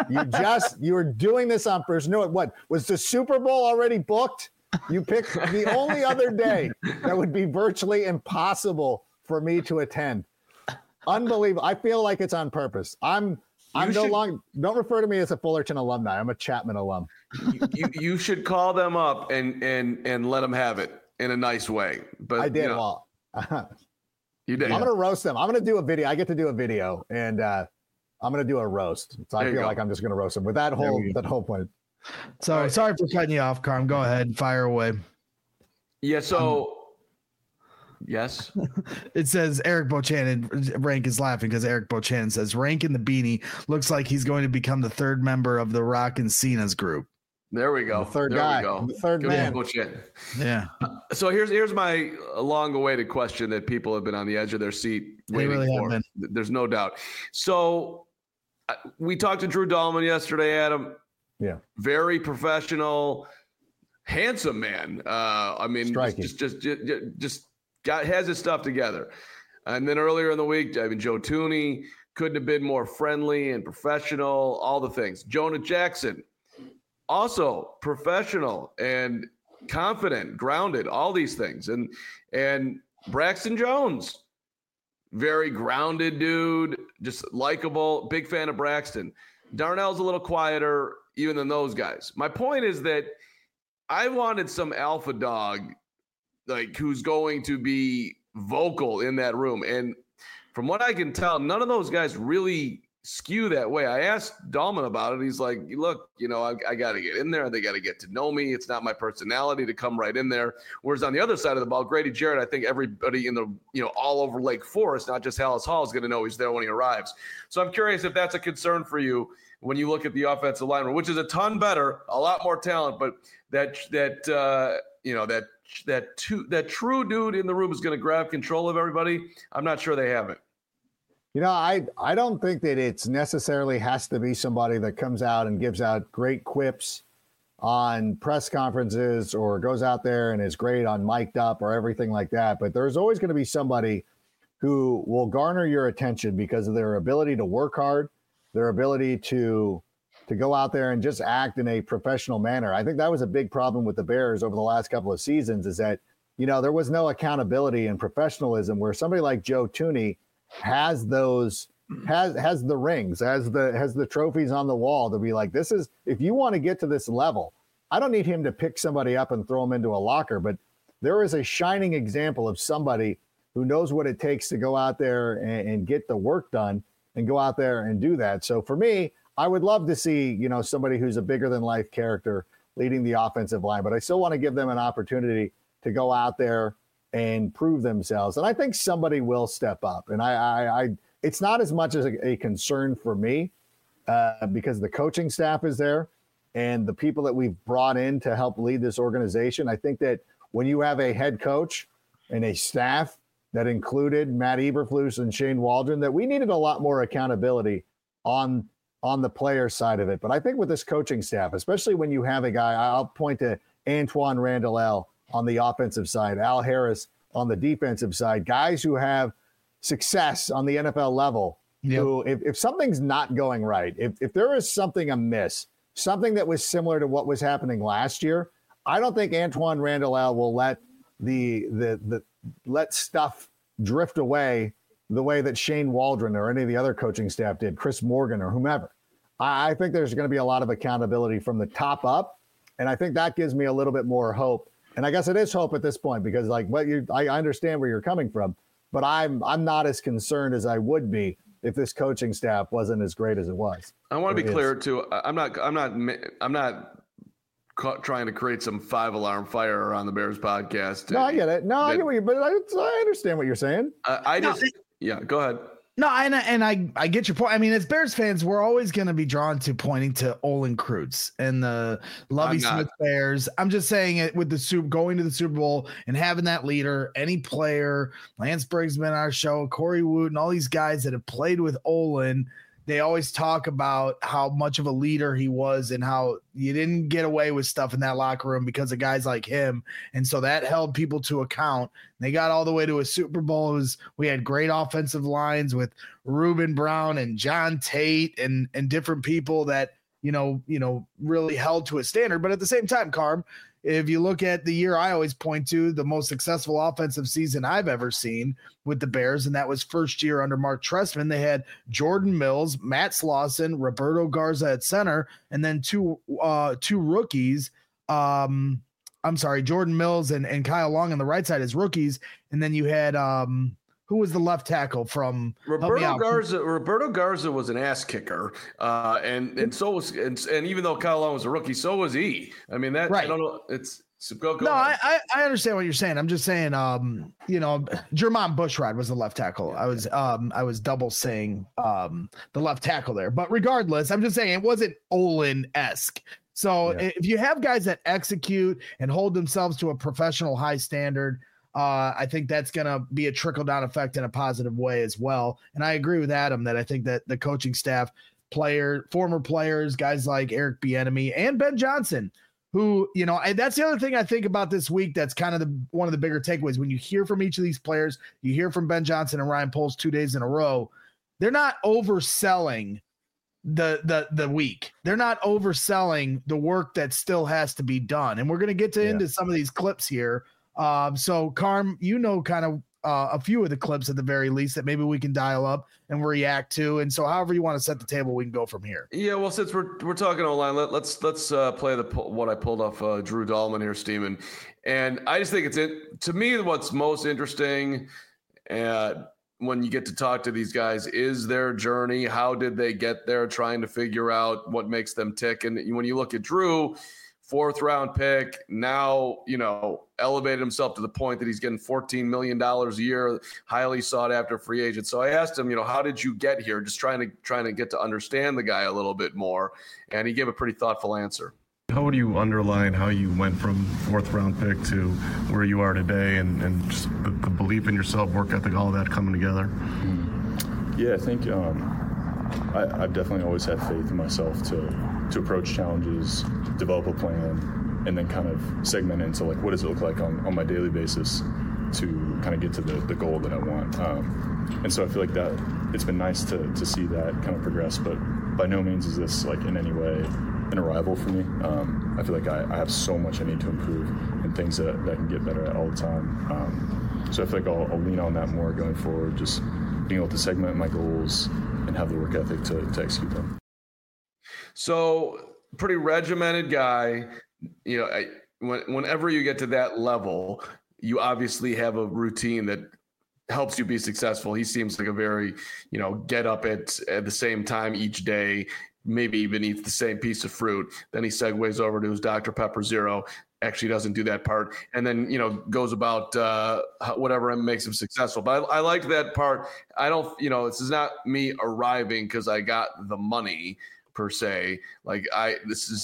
You are doing this on purpose. No, what was the Super Bowl already booked? You picked the only other day that would be virtually impossible for me to attend. Unbelievable. I feel like it's on purpose. Don't refer to me as a Fullerton alumni. I'm a Chapman alum. You should call them up and let them have it in a nice way. But I did. You did. I'm going to roast them. I'm going to do a video. I get to do a video, and I'm going to do a roast. So I feel like I'm just going to roast them with that whole point. So right. Sorry for cutting you off, Carm. Go ahead. Fire away. Yeah. So, yes. It says Eric Bochanan. Rank is laughing because Eric Bochanan says Rank in the beanie looks like he's going to become the third member of the Rock and Cena's group. There we go. The third there guy. We go. The third Good man. coach in. Yeah. So here's my long-awaited question that people have been on the edge of their seat waiting really for. There's no doubt. So we talked to Drew Dahlman yesterday, Adam. Yeah. Very professional, handsome man. I mean, striking. just has his stuff together. And then earlier in the week, I mean, Joe Thuney couldn't have been more friendly and professional, all the things. Jonah Jackson, also professional and confident, grounded, all these things. And Braxton Jones, very grounded dude, just likable, big fan of Braxton. Darnell's a little quieter even than those guys. My point is that I wanted some alpha dog, like, who's going to be vocal in that room. And from what I can tell, none of those guys really skew that way. I asked Dahlman about it. He's like, look, I got to get in there. They got to get to know me. It's not my personality to come right in there. Whereas on the other side of the ball, Grady Jarrett, I think everybody in the, all over Lake Forest, not just Hallis Hall, is going to know he's there when he arrives. So I'm curious if that's a concern for you when you look at the offensive line, which is a ton better, a lot more talent, but that true dude in the room is going to grab control of everybody. I'm not sure they have it. I don't think that it's necessarily has to be somebody that comes out and gives out great quips on press conferences or goes out there and is great on mic'd up or everything like that. But there's always going to be somebody who will garner your attention because of their ability to work hard, their ability to go out there and just act in a professional manner. I think that was a big problem with the Bears over the last couple of seasons, is that, there was no accountability and professionalism where somebody like Joe Thuney has the rings, has the trophies on the wall to be like, this is, if you want to get to this level, I don't need him to pick somebody up and throw him into a locker, but there is a shining example of somebody who knows what it takes to go out there and get the work done and go out there and do that. So for me, I would love to see, somebody who's a bigger than life character leading the offensive line, but I still want to give them an opportunity to go out there and prove themselves. And I think somebody will step up. And I it's not as much as a concern for me because the coaching staff is there and the people that we've brought in to help lead this organization. I think that when you have a head coach and a staff that included Matt Eberflus and Shane Waldron, that we needed a lot more accountability on the player side of it. But I think with this coaching staff, especially when you have a guy, I'll point to Antoine Randall on the offensive side, Al Harris on the defensive side, guys who have success on the NFL level, who, if something's not going right, if there is something amiss, something that was similar to what was happening last year, I don't think Antoine Randall will let let stuff drift away the way that Shane Waldron or any of the other coaching staff did, Chris Morgan or whomever. I think there's going to be a lot of accountability from the top up, and I think that gives me a little bit more hope. And I guess it is hope at this point because, like, I understand where you're coming from, but I'm not as concerned as I would be if this coaching staff wasn't as great as it was. I want to be clear too. I'm not trying to create some 5-alarm fire on the Bears podcast. No, I get it. No, I get what but I understand what you're saying. Go ahead. No, and I get your point. I mean, as Bears fans, we're always going to be drawn to pointing to Olin Kreutz and the Lovie Smith Bears. I'm just saying it with going to the Super Bowl and having that leader, any player, Lance Briggs been on our show, Corey Wood, and all these guys that have played with Olin. They always talk about how much of a leader he was and how you didn't get away with stuff in that locker room because of guys like him. And so that held people to account. They got all the way to a Super Bowl. We had great offensive lines with Reuben Brown and John Tate and different people that, really held to a standard. But at the same time, Carm, if you look at the year I always point to, the most successful offensive season I've ever seen with the Bears, and that was first year under Mark Trestman. They had Jordan Mills, Matt Slauson, Roberto Garza at center, and then two rookies. Jordan Mills and Kyle Long on the right side as rookies. And then you had who was the left tackle from Roberto Garza? Roberto Garza was an ass kicker, and so was and even though Kyle Long was a rookie, so was he. I mean that right. I don't know. It's go no. I understand what you're saying. I'm just saying, Jermon Bushrod was the left tackle. Yeah. I was double saying the left tackle there, but regardless, I'm just saying it wasn't Olin-esque. So if you have guys that execute and hold themselves to a professional high standard, I think that's going to be a trickle-down effect in a positive way as well. And I agree with Adam that I think that the coaching staff, former players, guys like Eric Bieniemy and Ben Johnson, who, and that's the other thing I think about this week that's kind of one of the bigger takeaways. When you hear from each of these players, you hear from Ben Johnson and Ryan Poles 2 days in a row, they're not overselling the week. They're not overselling the work that still has to be done. And we're going to get into some of these clips here. So Carm, kind of a few of the clips at the very least that maybe we can dial up and react to. And so however you want to set the table, we can go from here. Yeah, well, since we're talking online, let's play what I pulled off Drew Dahlman here, Steeman. And I just think to me, what's most interesting when you get to talk to these guys is their journey. How did they get there? Trying to figure out what makes them tick. And when you look at Drew, 4th round pick, now, elevated himself to the point that he's getting $14 million a year, highly sought after free agent. So I asked him, how did you get here? Just trying to get to understand the guy a little bit more. And he gave a pretty thoughtful answer. How would you underline how you went from 4th round pick to where you are today and just the belief in yourself, work ethic, all of that coming together? Yeah, I think I've definitely always had faith in myself to approach challenges, develop a plan, and then kind of segment into what does it look like on my daily basis to kind of get to the goal that I want. And so I feel like that it's been nice to see that kind of progress, but by no means is this in any way an arrival for me. I feel like I have so much I need to improve and things that I can get better at all the time. So I feel like I'll lean on that more going forward, just being able to segment my goals and have the work ethic to execute them. So pretty regimented guy, whenever you get to that level, you obviously have a routine that helps you be successful. He seems like a very, get up at the same time each day, maybe even eat the same piece of fruit. Then he segues over to his Dr. Pepper Zero. Actually doesn't do that part. And then, goes about whatever makes him successful. But I liked that part. I don't, this is not me arriving because I got the money per se. A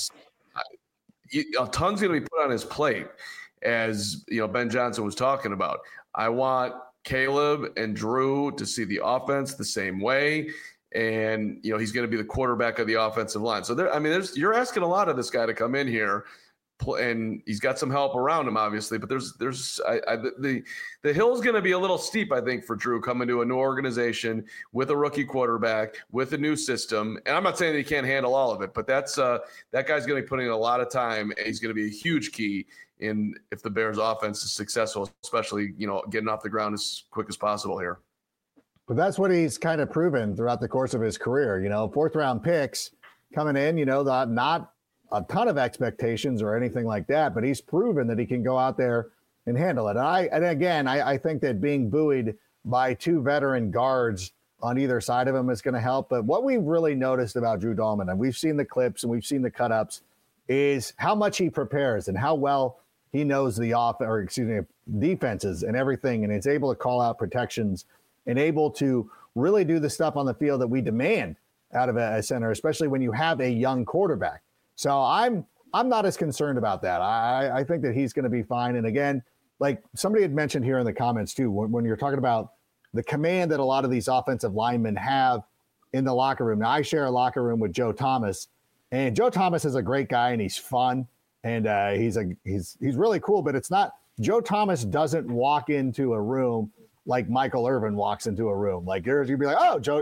ton's going to be put on his plate, as, Ben Johnson was talking about. I want Caleb and Drew to see the offense the same way. And, he's going to be the quarterback of the offensive line. So you're asking a lot of this guy to come in here, and he's got some help around him, obviously, but the hill's going to be a little steep, I think, for Drew coming to a new organization with a rookie quarterback, with a new system. And I'm not saying that he can't handle all of it, but that guy's going to be putting in a lot of time, and he's going to be a huge key in if the Bears offense is successful, especially, getting off the ground as quick as possible here. But that's what he's kind of proven throughout the course of his career. 4th round picks coming in, not a ton of expectations or anything like that, but he's proven that he can go out there and handle it. And I think that being buoyed by 2 veteran guards on either side of him is going to help. But what we've really noticed about Drew Dahlman, and we've seen the clips and we've seen the cut-ups, is how much he prepares and how well he knows the defenses and everything, and is able to call out protections and able to really do the stuff on the field that we demand out of a center, especially when you have a young quarterback. So I'm not as concerned about that. I think that he's going to be fine. And again, like somebody had mentioned here in the comments too, when you're talking about the command that a lot of these offensive linemen have in the locker room. Now, I share a locker room with Joe Thomas, and Joe Thomas is a great guy and he's fun and he's really cool. But it's not, Joe Thomas doesn't walk into a room like Michael Irvin walks into a room. Like you'd be like, oh, Joe,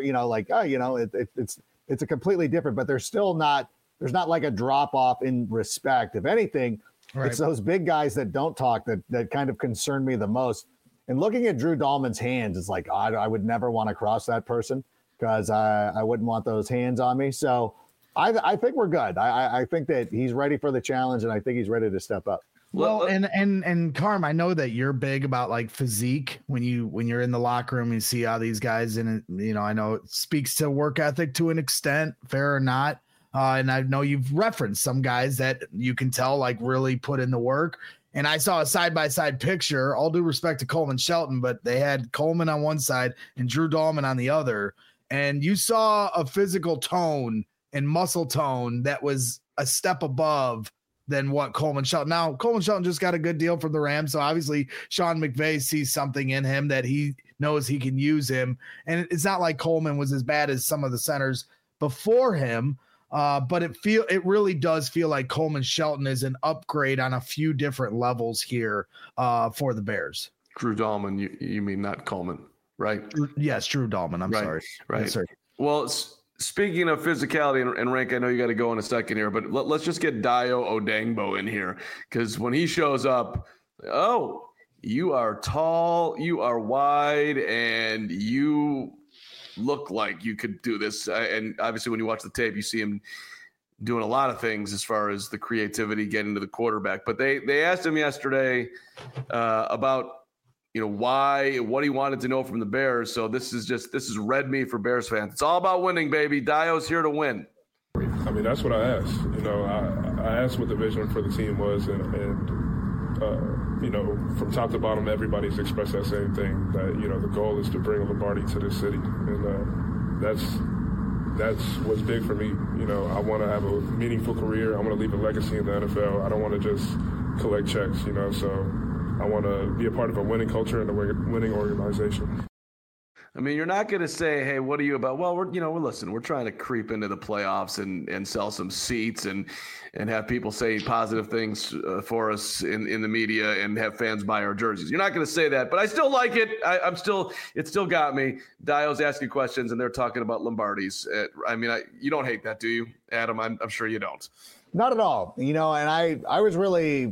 it's a completely different, but there's not like a drop off in respect. If anything, right. It's those big guys that don't talk that kind of concern me the most. And looking at Drew Dahlman's hands, it's like, I would never want to cross that person because I wouldn't want those hands on me. So I think we're good. I think that he's ready for the challenge, and I think he's ready to step up. Well, and Carm, I know that you're big about like physique when you're in the locker room, you see how these guys, and I know it speaks to work ethic to an extent, fair or not. And I know you've referenced some guys that you can tell like really put in the work. And I saw a side-by-side picture, all due respect to Coleman Shelton, but they had Coleman on one side and Drew Dahlman on the other. And you saw a physical tone and muscle tone that was a step above than what Coleman Shelton. Now, Coleman Shelton just got a good deal from the Rams, so obviously Sean McVay sees something in him that he knows he can use him. And it's not like Coleman was as bad as some of the centers before him, but it really does feel like Coleman Shelton is an upgrade on a few different levels here for the Bears. Drew Dahlman, you mean not Coleman, right? Yes, Drew Dahlman. I'm sorry. Right. Yes, sir. Well, speaking of physicality, and Rank, I know you got to go in a second here, but let's just get Dayo Odeyingbo in here, because when he shows up, you are tall, you are wide, and you look like you could do this. And obviously, when you watch the tape, you see him doing a lot of things as far as the creativity getting to the quarterback. But they asked him yesterday about what he wanted to know from the Bears. So this is red meat for Bears fans. It's all about winning, baby. Dayo's here to win. I mean, that's what I asked. I asked what the vision for the team was, and from top to bottom, everybody's expressed that same thing, that, the goal is to bring Lombardi to this city. And that's what's big for me. I want to have a meaningful career. I want to leave a legacy in the NFL. I don't want to just collect checks, so I want to be a part of a winning culture and a winning organization. I mean, you're not going to say, hey, what are you about? Well, we're trying to creep into the playoffs and sell some seats and have people say positive things for us in the media and have fans buy our jerseys. You're not going to say that, but I still like it. It still got me. Dayo's asking questions and they're talking about Lombardis. You don't hate that, do you, Adam? I'm sure you don't. Not at all. And I was really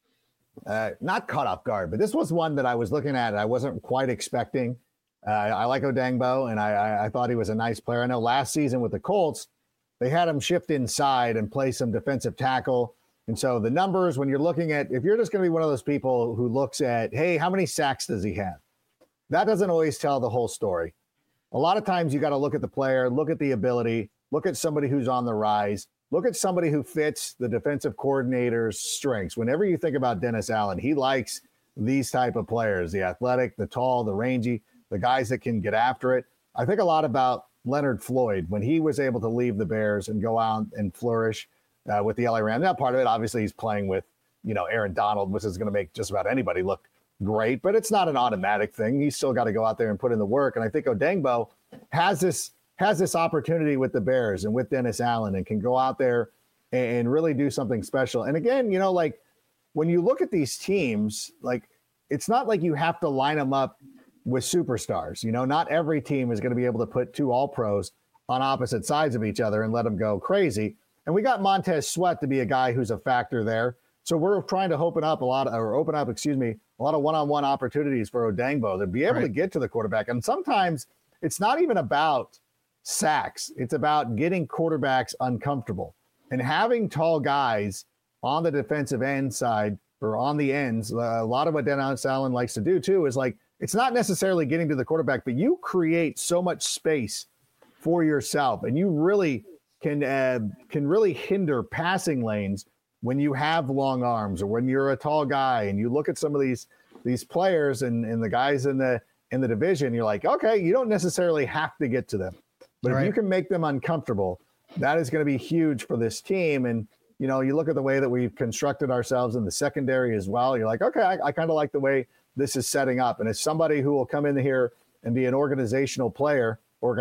not caught off guard, but this was one that I was looking at and I wasn't quite expecting. I like Odeyingbo, and I thought he was a nice player. I know last season with the Colts, they had him shift inside and play some defensive tackle. And so the numbers, when you're looking at, if you're just going to be one of those people who looks at, hey, how many sacks does he have? That doesn't always tell the whole story. A lot of times you got to look at the player, look at the ability, look at somebody who's on the rise, look at somebody who fits the defensive coordinator's strengths. Whenever you think about Dennis Allen, he likes these type of players, the athletic, the tall, the rangy, the guys that can get after it. I think a lot about Leonard Floyd when he was able to leave the Bears and go out and flourish with the LA Rams. Now, part of it, obviously, he's playing with, Aaron Donald, which is going to make just about anybody look great, but it's not an automatic thing. He's still got to go out there and put in the work. And I think Odeyingbo has this opportunity with the Bears and with Dennis Allen and can go out there and really do something special. And again, when you look at these teams, it's not like you have to line them up with superstars. Not every team is going to be able to put two All-Pros on opposite sides of each other and let them go crazy. And we got Montez Sweat to be a guy who's a factor there. So we're trying to open up a lot of one-on-one opportunities for Odeyingbo to be able to get to the quarterback. And sometimes it's not even about sacks. It's about getting quarterbacks uncomfortable and having tall guys on the defensive end side or on the ends. A lot of what Dennis Allen likes to do too is it's not necessarily getting to the quarterback, but you create so much space for yourself, and you really can really hinder passing lanes when you have long arms or when you're a tall guy. And you look at some of these players and the guys in the division, you're like, okay, you don't necessarily have to get to them, but if you can make them uncomfortable, that is going to be huge for this team. And you look at the way that we've constructed ourselves in the secondary as well. You're like, okay, I kind of like the way this is setting up. And as somebody who will come in here and be an organizational player,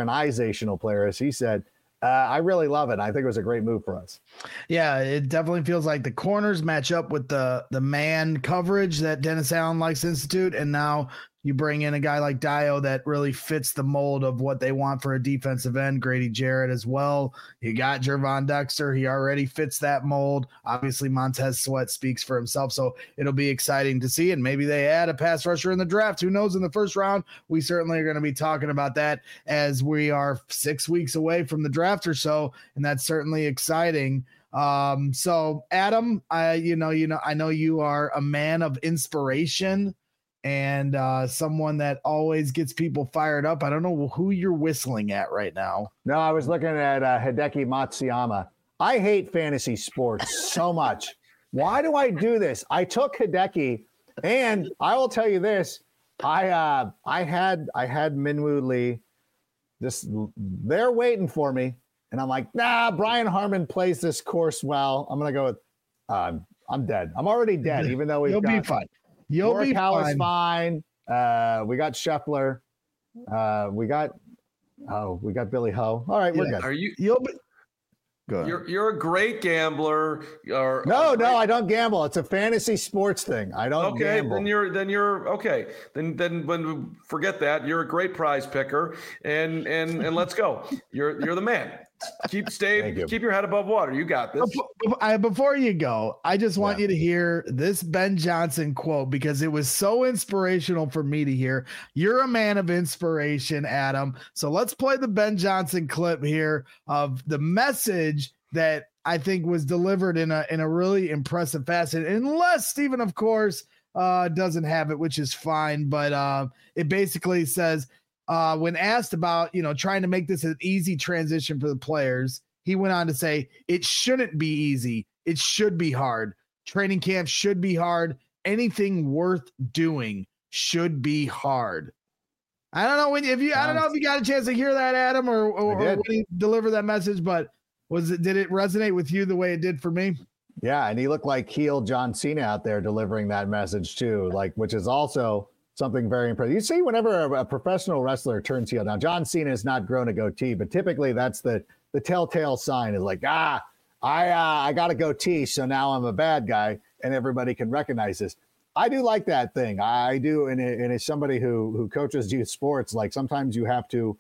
as he said, I really love it. I think it was a great move for us. Yeah, it definitely feels like the corners match up with the man coverage that Dennis Allen likes to institute. And now you bring in a guy like Dayo that really fits the mold of what they want for a defensive end. Grady Jarrett as well. You got Gervon Dexter. He already fits that mold. Obviously, Montez Sweat speaks for himself. So it'll be exciting to see. And maybe they add a pass rusher in the draft. Who knows in the first round? We certainly are going to be talking about that as we are 6 weeks away from the draft or so. And that's certainly exciting. So Adam, I know you are a man of inspiration and someone that always gets people fired up. I don't know who you're whistling at right now. No, I was looking at Hideki Matsuyama. I hate fantasy sports so much. Why do I do this? I took Hideki, and I will tell you this: I had Minwoo Lee. They're waiting for me. And I'm like, nah, Brian Harman plays this course well. I'm going to go with I'm dead. I'm already dead, even though You'll be fine. You'll be Morikawa is fine. fine. We got Scheffler. We got Billy Ho. All right, we're good. Are you? You'll be. Go ahead. You're a great gambler. No, I don't gamble. It's a fantasy sports thing. I don't gamble. Then you're okay. Then when forget that. You're a great prize picker, and let's go. You're the man. Keep your head above water. You got this. Before you go, I just want you to hear this Ben Johnson quote because it was so inspirational for me to hear. You're a man of inspiration, Adam. So let's play the Ben Johnson clip here of the message that I think was delivered in a really impressive fashion. Unless Stephen, of course, doesn't have it, which is fine. But it basically says, when asked about, trying to make this an easy transition for the players, he went on to say, it shouldn't be easy. It should be hard. Training camp should be hard. Anything worth doing should be hard. I don't know if you got a chance to hear that, Adam, or when he delivered that message, but did it resonate with you the way it did for me? Yeah. And he looked like heel John Cena out there delivering that message too, which is also something very impressive. You see, whenever a professional wrestler turns heel, now John Cena has not grown a goatee, but typically that's the telltale sign is like, I got a goatee, so now I'm a bad guy, and everybody can recognize this. I do like that thing. I do, and as somebody who coaches youth sports, like sometimes you have to,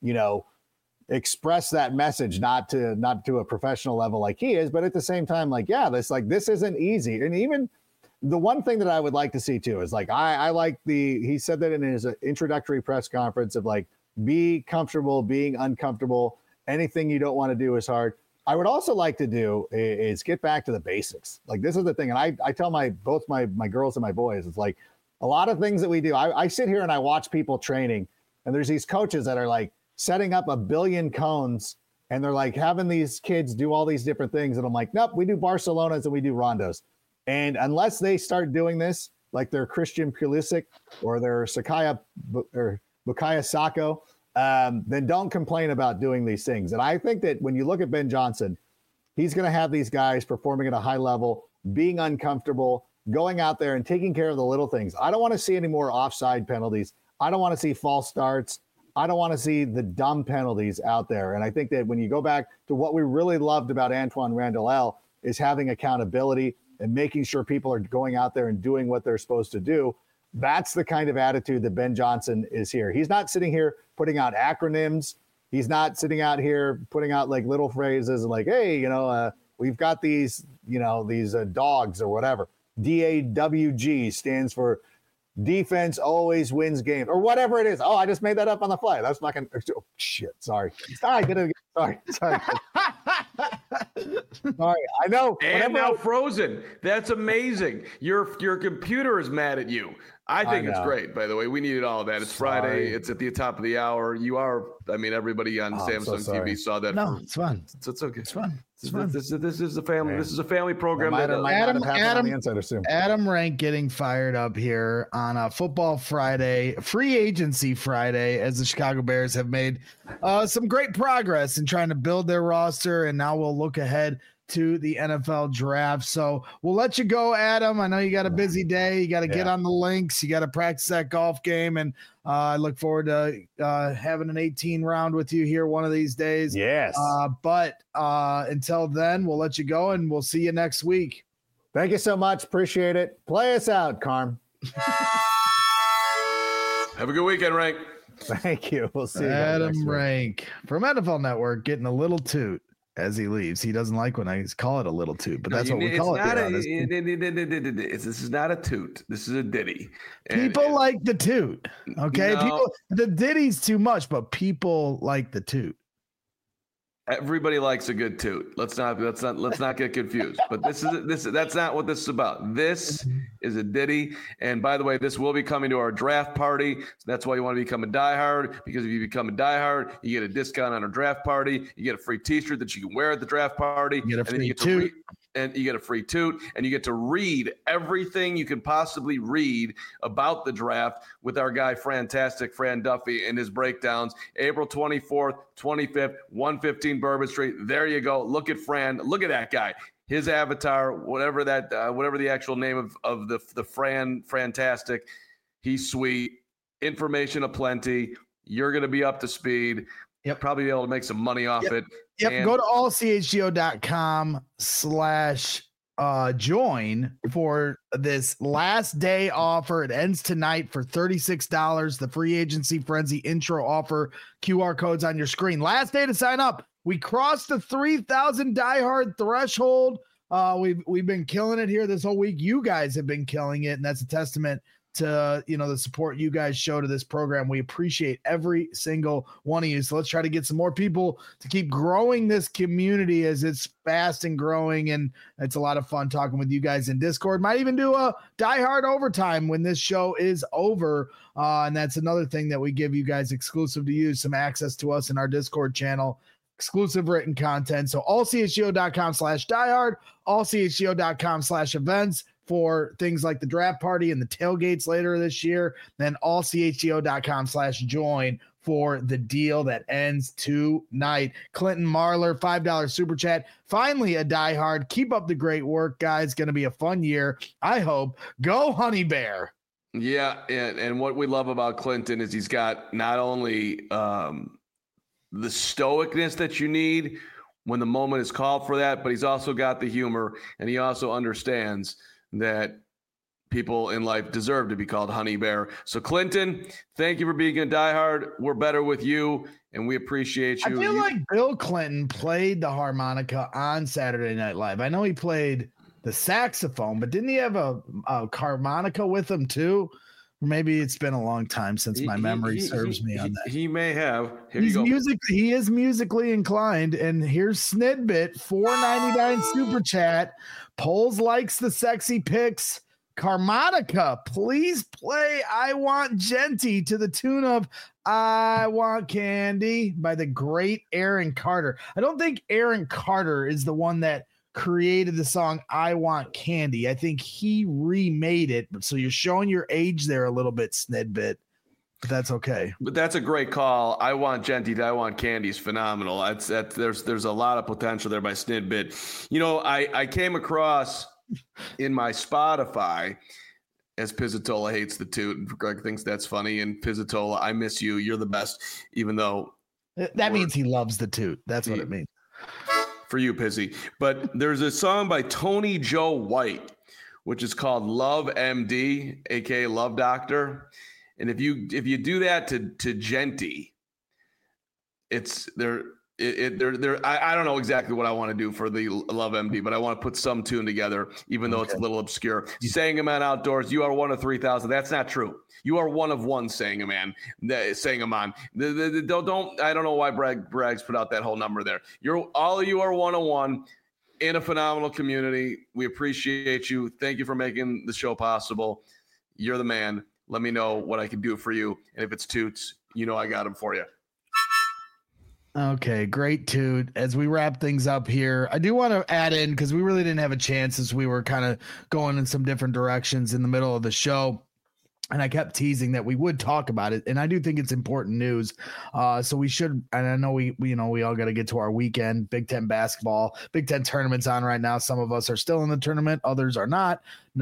express that message, not to a professional level like he is, but at the same time, this isn't easy, and even. The one thing that I would like to see too is I like he said that in his introductory press conference of be comfortable being uncomfortable. Anything you don't want to do is hard. I would also like to do is get back to the basics. This is the thing. And I tell both my girls and my boys, it's a lot of things that we do. I sit here and I watch people training and there's these coaches that are setting up 1 billion cones and they're having these kids do all these different things. And I'm like, nope, we do Barcelonas and we do rondos. And unless they start doing this, like their Christian Pulisic or their Bukayo Sako, then don't complain about doing these things. And I think that when you look at Ben Johnson, he's going to have these guys performing at a high level, being uncomfortable, going out there and taking care of the little things. I don't want to see any more offside penalties. I don't want to see false starts. I don't want to see the dumb penalties out there. And I think that when you go back to what we really loved about Antoine Randall is having accountability and making sure people are going out there and doing what they're supposed to do. That's the kind of attitude that Ben Johnson is here. He's not sitting here putting out acronyms. He's not sitting out here putting out little phrases hey, we've got these, these dogs or whatever. DAWG stands for defense always wins games or whatever it is. Oh, I just made that up on the fly. That's not going to, shit. Sorry. Sorry. Sorry. I know. And now Frozen. That's amazing. Your computer is mad at you. I think it's great, by the way. We needed all of that. It's Friday. It's at the top of the hour. You are, everybody on Samsung TV saw that. No, it's fun. It's okay. It's fun. This is a family. Yeah. This is a family program. Adam Rank getting fired up here on a Football Friday, Free Agency Friday, as the Chicago Bears have made some great progress in trying to build their roster, and now we'll look ahead to the NFL draft. So we'll let you go, Adam. I know you got a busy day. You got to get on the links. You got to practice that golf game. And I look forward to having an 18 round with you here one of these days. Yes. But until then, we'll let you go and we'll see you next week. Thank you so much. Appreciate it. Play us out, Carm. Have a good weekend, Rank. Thank you. We'll see you. Adam Rank from NFL Network getting a little toot as he leaves. He doesn't like when I call it a little toot, but that's what we call it. This is not a toot. This is a ditty. People like the toot. Okay. The ditty's too much, but people like the toot. Everybody likes a good toot. Let's not get confused. But that's not what this is about. This is a ditty. And by the way, this will be coming to our draft party. So that's why you want to become a diehard, because if you become a diehard, you get a discount on our draft party. You get a free T-shirt that you can wear at the draft party. You get a free toot. and you get a free toot, and you get to read everything you can possibly read about the draft with our guy, Fantastic Fran Duffy, and his breakdowns. April 24th, 25th, 115 Bourbon Street. There you go. Look at Fran. Look at that guy. His avatar, whatever the actual name of the Fantastic. He's sweet. Information aplenty. You're going to be up to speed. Yep. Probably be able to make some money off it. Yep. And go to allchgo.com/join for this last day offer. It ends tonight for $36. The free agency frenzy intro offer, QR codes on your screen. Last day to sign up. We crossed the 3,000 diehard threshold. We've been killing it here this whole week. You guys have been killing it, and that's a testament to the support you guys show to this program. We appreciate every single one of you. So let's try to get some more people to keep growing this community as it's fast and growing. And it's a lot of fun talking with you guys in Discord. Might even do a diehard overtime when this show is over. And that's another thing that we give you guys exclusive to you, some access to us in our Discord channel, exclusive written content. So allchgo.com/diehard, allchgo.com/events for things like the draft party and the tailgates later this year, then allchgo.com/join for the deal that ends tonight. Clinton Marler, $5 super chat. Finally, a diehard. Keep up the great work, guys. Going to be a fun year, I hope. Go Honey Bear. Yeah, and what we love about Clinton is he's got not only the stoicness that you need when the moment is called for that, but he's also got the humor, and he also understands that people in life deserve to be called Honey Bear. So Clinton, thank you for being a diehard. We're better with you, and we appreciate you. I feel like Bill Clinton played the harmonica on Saturday Night Live. I know he played the saxophone, but didn't he have a harmonica with him too? Or maybe it's been a long time since my memory serves me on that. He may have. He is musically inclined. And here's Snidbit, $4.99 super chat. Poles likes the sexy pics. Carmonica, please play I Want Genty to the tune of I Want Candy by the great Aaron Carter. I don't think Aaron Carter is the one that created the song I Want Candy. I think he remade it. So you're showing your age there a little bit, Snidbit. But that's okay. But that's a great call. I Want Genty to I Want Candy is phenomenal. There's a lot of potential there by Snidbit. I came across in my Spotify, as Pizzatola hates the toot and Greg thinks that's funny. And Pizzatola, I miss you. You're the best, even though that means he loves the toot. That's what it means. For you, Pizzy. But there's a song by Tony Joe White, which is called Love MD, aka Love Doctor. And if you do that to Genty, it's there. I don't know exactly what I want to do for the Love MD, but I want to put some tune together, even though it's a little obscure. Sangaman Outdoors, you are one of 3,000. That's not true. You are one of one Sangaman. Sangaman. I don't know why Bragg's put out that whole number there. All of you are 101 in a phenomenal community. We appreciate you. Thank you for making the show possible. You're the man. Let me know what I can do for you. And if it's toots, I got them for you. Okay, great toot. As we wrap things up here, I do want to add in, because we really didn't have a chance as we were kind of going in some different directions in the middle of the show. And I kept teasing that we would talk about it. And I do think it's important news. So we should, and I know we all got to get to our weekend. Big Ten basketball, Big Ten tournament's on right now. Some of us are still in the tournament. Others are not.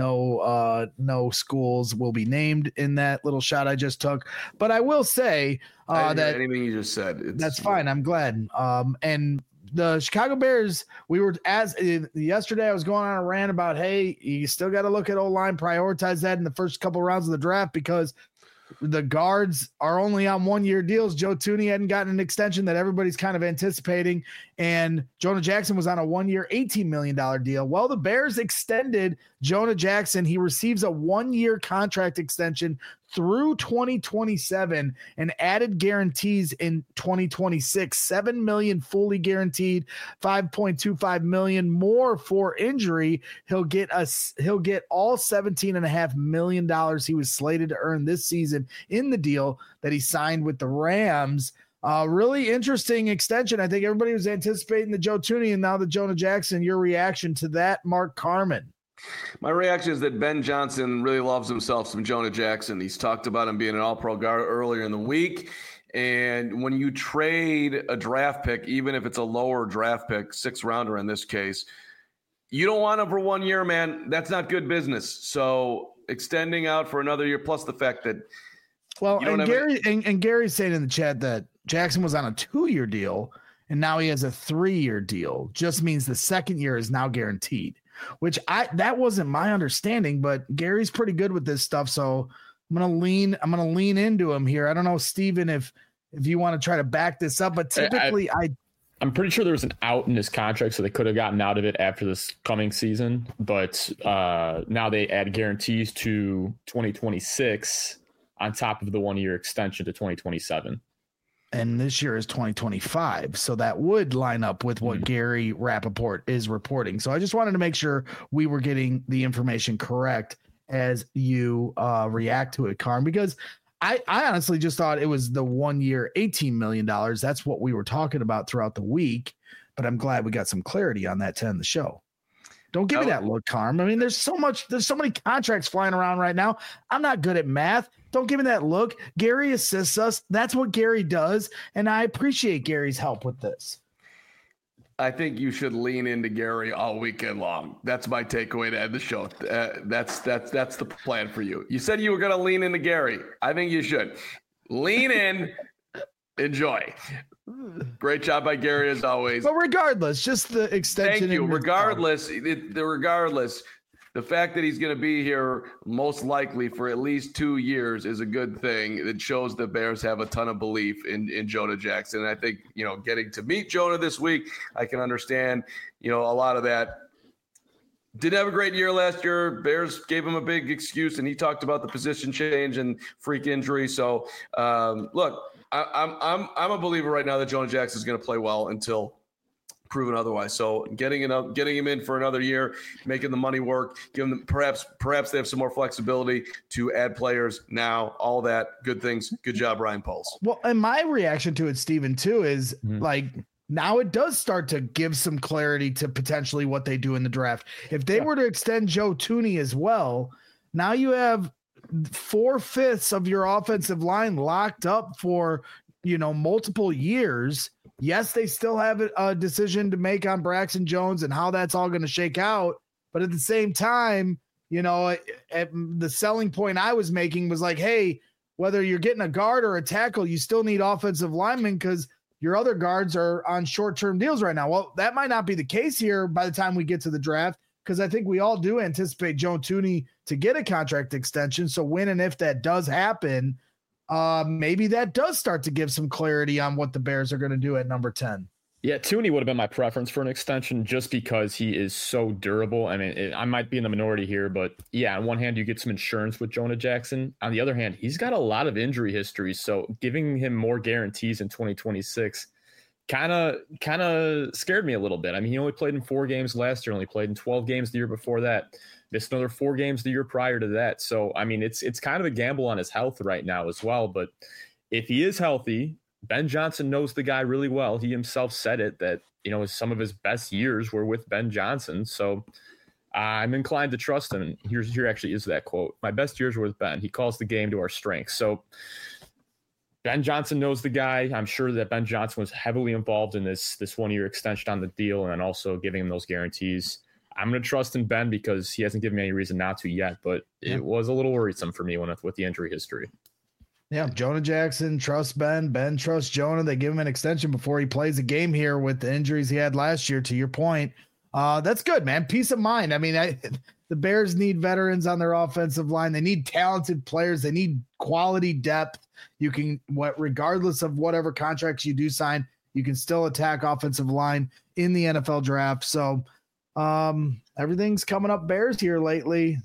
No schools will be named in that little shot I just took. But I will say that anything you just said, that's fine. I'm glad. And the Chicago Bears, yesterday I was going on a rant about, hey, you still got to look at O-line, prioritize that in the first couple rounds of the draft, because the guards are only on 1-year deals. Joe Thuney hadn't gotten an extension that everybody's kind of anticipating. And Jonah Jackson was on a 1-year, $18 million deal. Well, the Bears extended Jonah Jackson. He receives a 1-year contract extension through 2027 and added guarantees in 2026, $7 million fully guaranteed, $5.25 million more for injury. He'll get all $17.5 million he was slated to earn this season in the deal that he signed with the Rams. Really interesting extension. I think everybody was anticipating the Joe Thuney and now the Jonah Jackson. Your reaction to that, Mark Carman? My reaction is that Ben Johnson really loves himself some Jonah Jackson. He's talked about him being an all-pro guard earlier in the week. And when you trade a draft pick, even if it's a lower draft pick, 6th rounder in this case, you don't want him for 1 year, man. That's not good business. So extending out for another year, plus the fact that Gary's saying in the chat that Jackson was on a 2-year deal and now he has a 3-year deal. Just means the second year is now guaranteed, which that wasn't my understanding, but Gary's pretty good with this stuff. So I'm going to lean into him here. I don't know, Steven, if you want to try to back this up, but typically I'm pretty sure there was an out in his contract, so they could have gotten out of it after this coming season. But now they add guarantees to 2026 on top of the 1-year extension to 2027. And this year is 2025. So that would line up with what Gary Rappaport is reporting. So I just wanted to make sure we were getting the information correct as you react to it, Carm, because I honestly just thought it was the 1 year, $18 million. That's what we were talking about throughout the week, but I'm glad we got some clarity on that to end the show. Don't give me that look, Carm. I mean, there's so many contracts flying around right now. I'm not good at math. Don't give me that look. Gary assists us. That's what Gary does. And I appreciate Gary's help with this. I think you should lean into Gary all weekend long. That's my takeaway to end the show. That's the plan for you. You said you were going to lean into Gary. I think you should lean in, enjoy. Great job by Gary as always. But regardless, just the extension. Thank you. Regardless, the fact that he's going to be here most likely for at least 2 years is a good thing. It shows the Bears have a ton of belief in Jonah Jackson. And I think, getting to meet Jonah this week, I can understand, a lot of that. Didn't have a great year last year. Bears gave him a big excuse, and he talked about the position change and freak injury. So, look, I'm a believer right now that Jonah Jackson is going to play well until proven otherwise. So getting him in for another year, making the money work, giving them perhaps they have some more flexibility to add players now, all that good things. Good job, Ryan Poles. Well, and my reaction to it, Steven, too, is like now it does start to give some clarity to potentially what they do in the draft. If they were to extend Joe Thuney as well, now you have 4/5 of your offensive line locked up for, multiple years. Yes, they still have a decision to make on Braxton Jones and how that's all going to shake out. But at the same time, the selling point I was making was like, hey, whether you're getting a guard or a tackle, you still need offensive linemen because your other guards are on short-term deals right now. Well, that might not be the case here by the time we get to the draft, because I think we all do anticipate Joe Thuney to get a contract extension. So when and if that does happen, maybe that does start to give some clarity on what the Bears are going to do at number 10. Yeah, Thuney would have been my preference for an extension just because he is so durable. I mean, I might be in the minority here, but yeah, on one hand, you get some insurance with Jonah Jackson. On the other hand, he's got a lot of injury history. So giving him more guarantees in 2026 kind of scared me a little bit. I mean, he only played in 4 games last year, only played in 12 games the year before that. Missed another 4 games the year prior to that. So, I mean, it's kind of a gamble on his health right now as well. But if he is healthy, Ben Johnson knows the guy really well. He himself said it that, some of his best years were with Ben Johnson. So I'm inclined to trust him. And here actually is that quote. My best years were with Ben. He calls the game to our strengths. So Ben Johnson knows the guy. I'm sure that Ben Johnson was heavily involved in this 1-year extension on the deal and also giving him those guarantees. I'm going to trust in Ben because he hasn't given me any reason not to yet, but it was a little worrisome for me with the injury history. Yeah, Jonah Jackson trusts Ben. Ben trusts Jonah. They give him an extension before he plays a game here with the injuries he had last year, to your point. That's good, man. Peace of mind. I mean, the Bears need veterans on their offensive line. They need talented players. They need quality depth. You can, regardless of whatever contracts you do sign, you can still attack offensive line in the NFL draft. So, everything's coming up Bears here lately,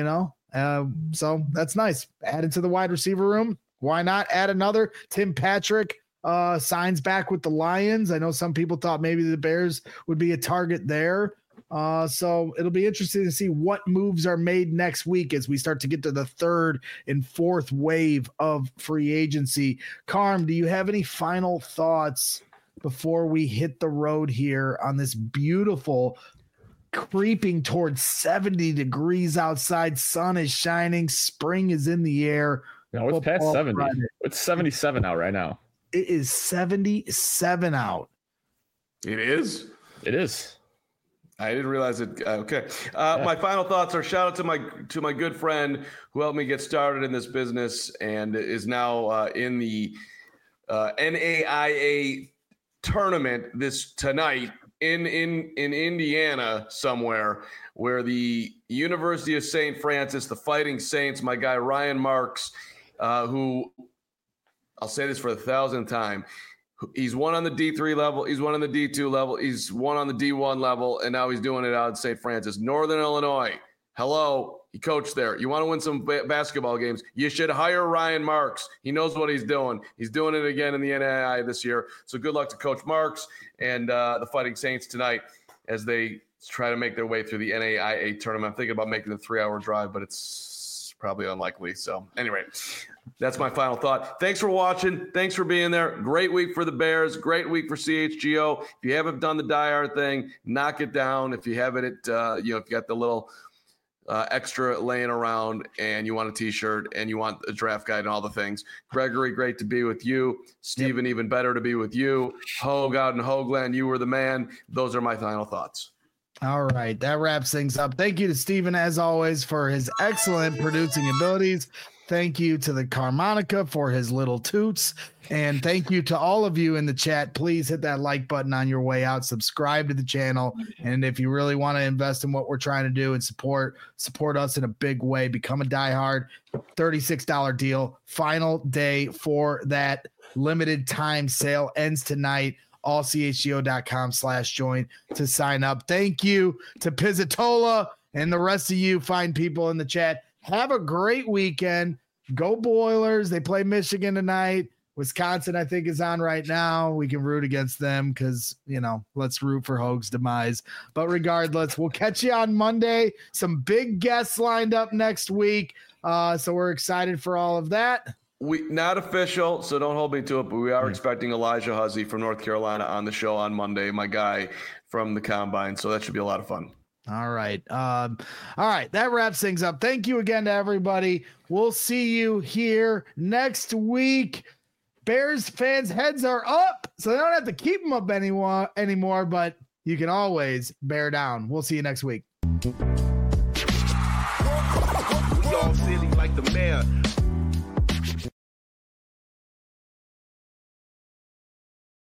so that's nice. Added to the wide receiver room. Why not add another? Tim Patrick signs back with the Lions. I know some people thought maybe the Bears would be a target there. So it'll be interesting to see what moves are made next week as we start to get to the third and fourth wave of free agency. Carm, do you have any final thoughts before we hit the road here on this beautiful, creeping towards 70 degrees outside? Sun is shining. Spring is in the air. No, it's past 70. Friday. It's 77 out right now. It is 77 out. It is? It is. I didn't realize it. Okay. My final thoughts are shout out to my good friend who helped me get started in this business and is now in the NAIA tournament tonight in Indiana somewhere, where the University of St. Francis, the Fighting Saints, my guy Ryan Marks, who I'll say this for the 1,000th time. He's won on the D3 level. He's won on the D2 level. He's won on the D1 level, and now he's doing it out in St. Francis, Northern Illinois. Hello. He coached there. You want to win some basketball games, you should hire Ryan Marks. He knows what he's doing. He's doing it again in the NAIA this year. So good luck to Coach Marks and the Fighting Saints tonight as they try to make their way through the NAIA tournament. I'm thinking about making the 3-hour drive, but it's probably unlikely. So anyway, that's my final thought. Thanks for watching. Thanks for being there. Great week for the Bears. Great week for CHGO. If you haven't done the Die Hard thing, knock it down. If you haven't, if you got the little extra laying around and you want a t-shirt and you want a draft guide and all the things. Gregory, great to be with you. Steven, even better to be with you. Hogue out in Hoagland, you were the man. Those are my final thoughts. All right, that wraps things up. Thank you to Steven, as always, for his excellent producing abilities. Thank you to the Carmonica for his little toots. And thank you to all of you in the chat. Please hit that like button on your way out. Subscribe to the channel. And if you really want to invest in what we're trying to do and support us in a big way, become a diehard. $36 deal. Final day for that limited time sale ends tonight. allchgo.com/join to sign up. Thank you to Pizzatola and the rest of you fine people in the chat. Have a great weekend. Go Boilers. They play Michigan tonight. Wisconsin, I think, is on right now. We can root against them because, let's root for Hogue's demise. But regardless, we'll catch you on Monday. Some big guests lined up next week. So we're excited for all of that. Not official, so don't hold me to it, but we are expecting Elijah Huzzy from North Carolina on the show on Monday, my guy from the Combine. So that should be a lot of fun. All right. All right. That wraps things up. Thank you again to everybody. We'll see you here next week. Bears fans' heads are up, so they don't have to keep them up anymore, but you can always bear down. We'll see you next week. We all silly like the mayor.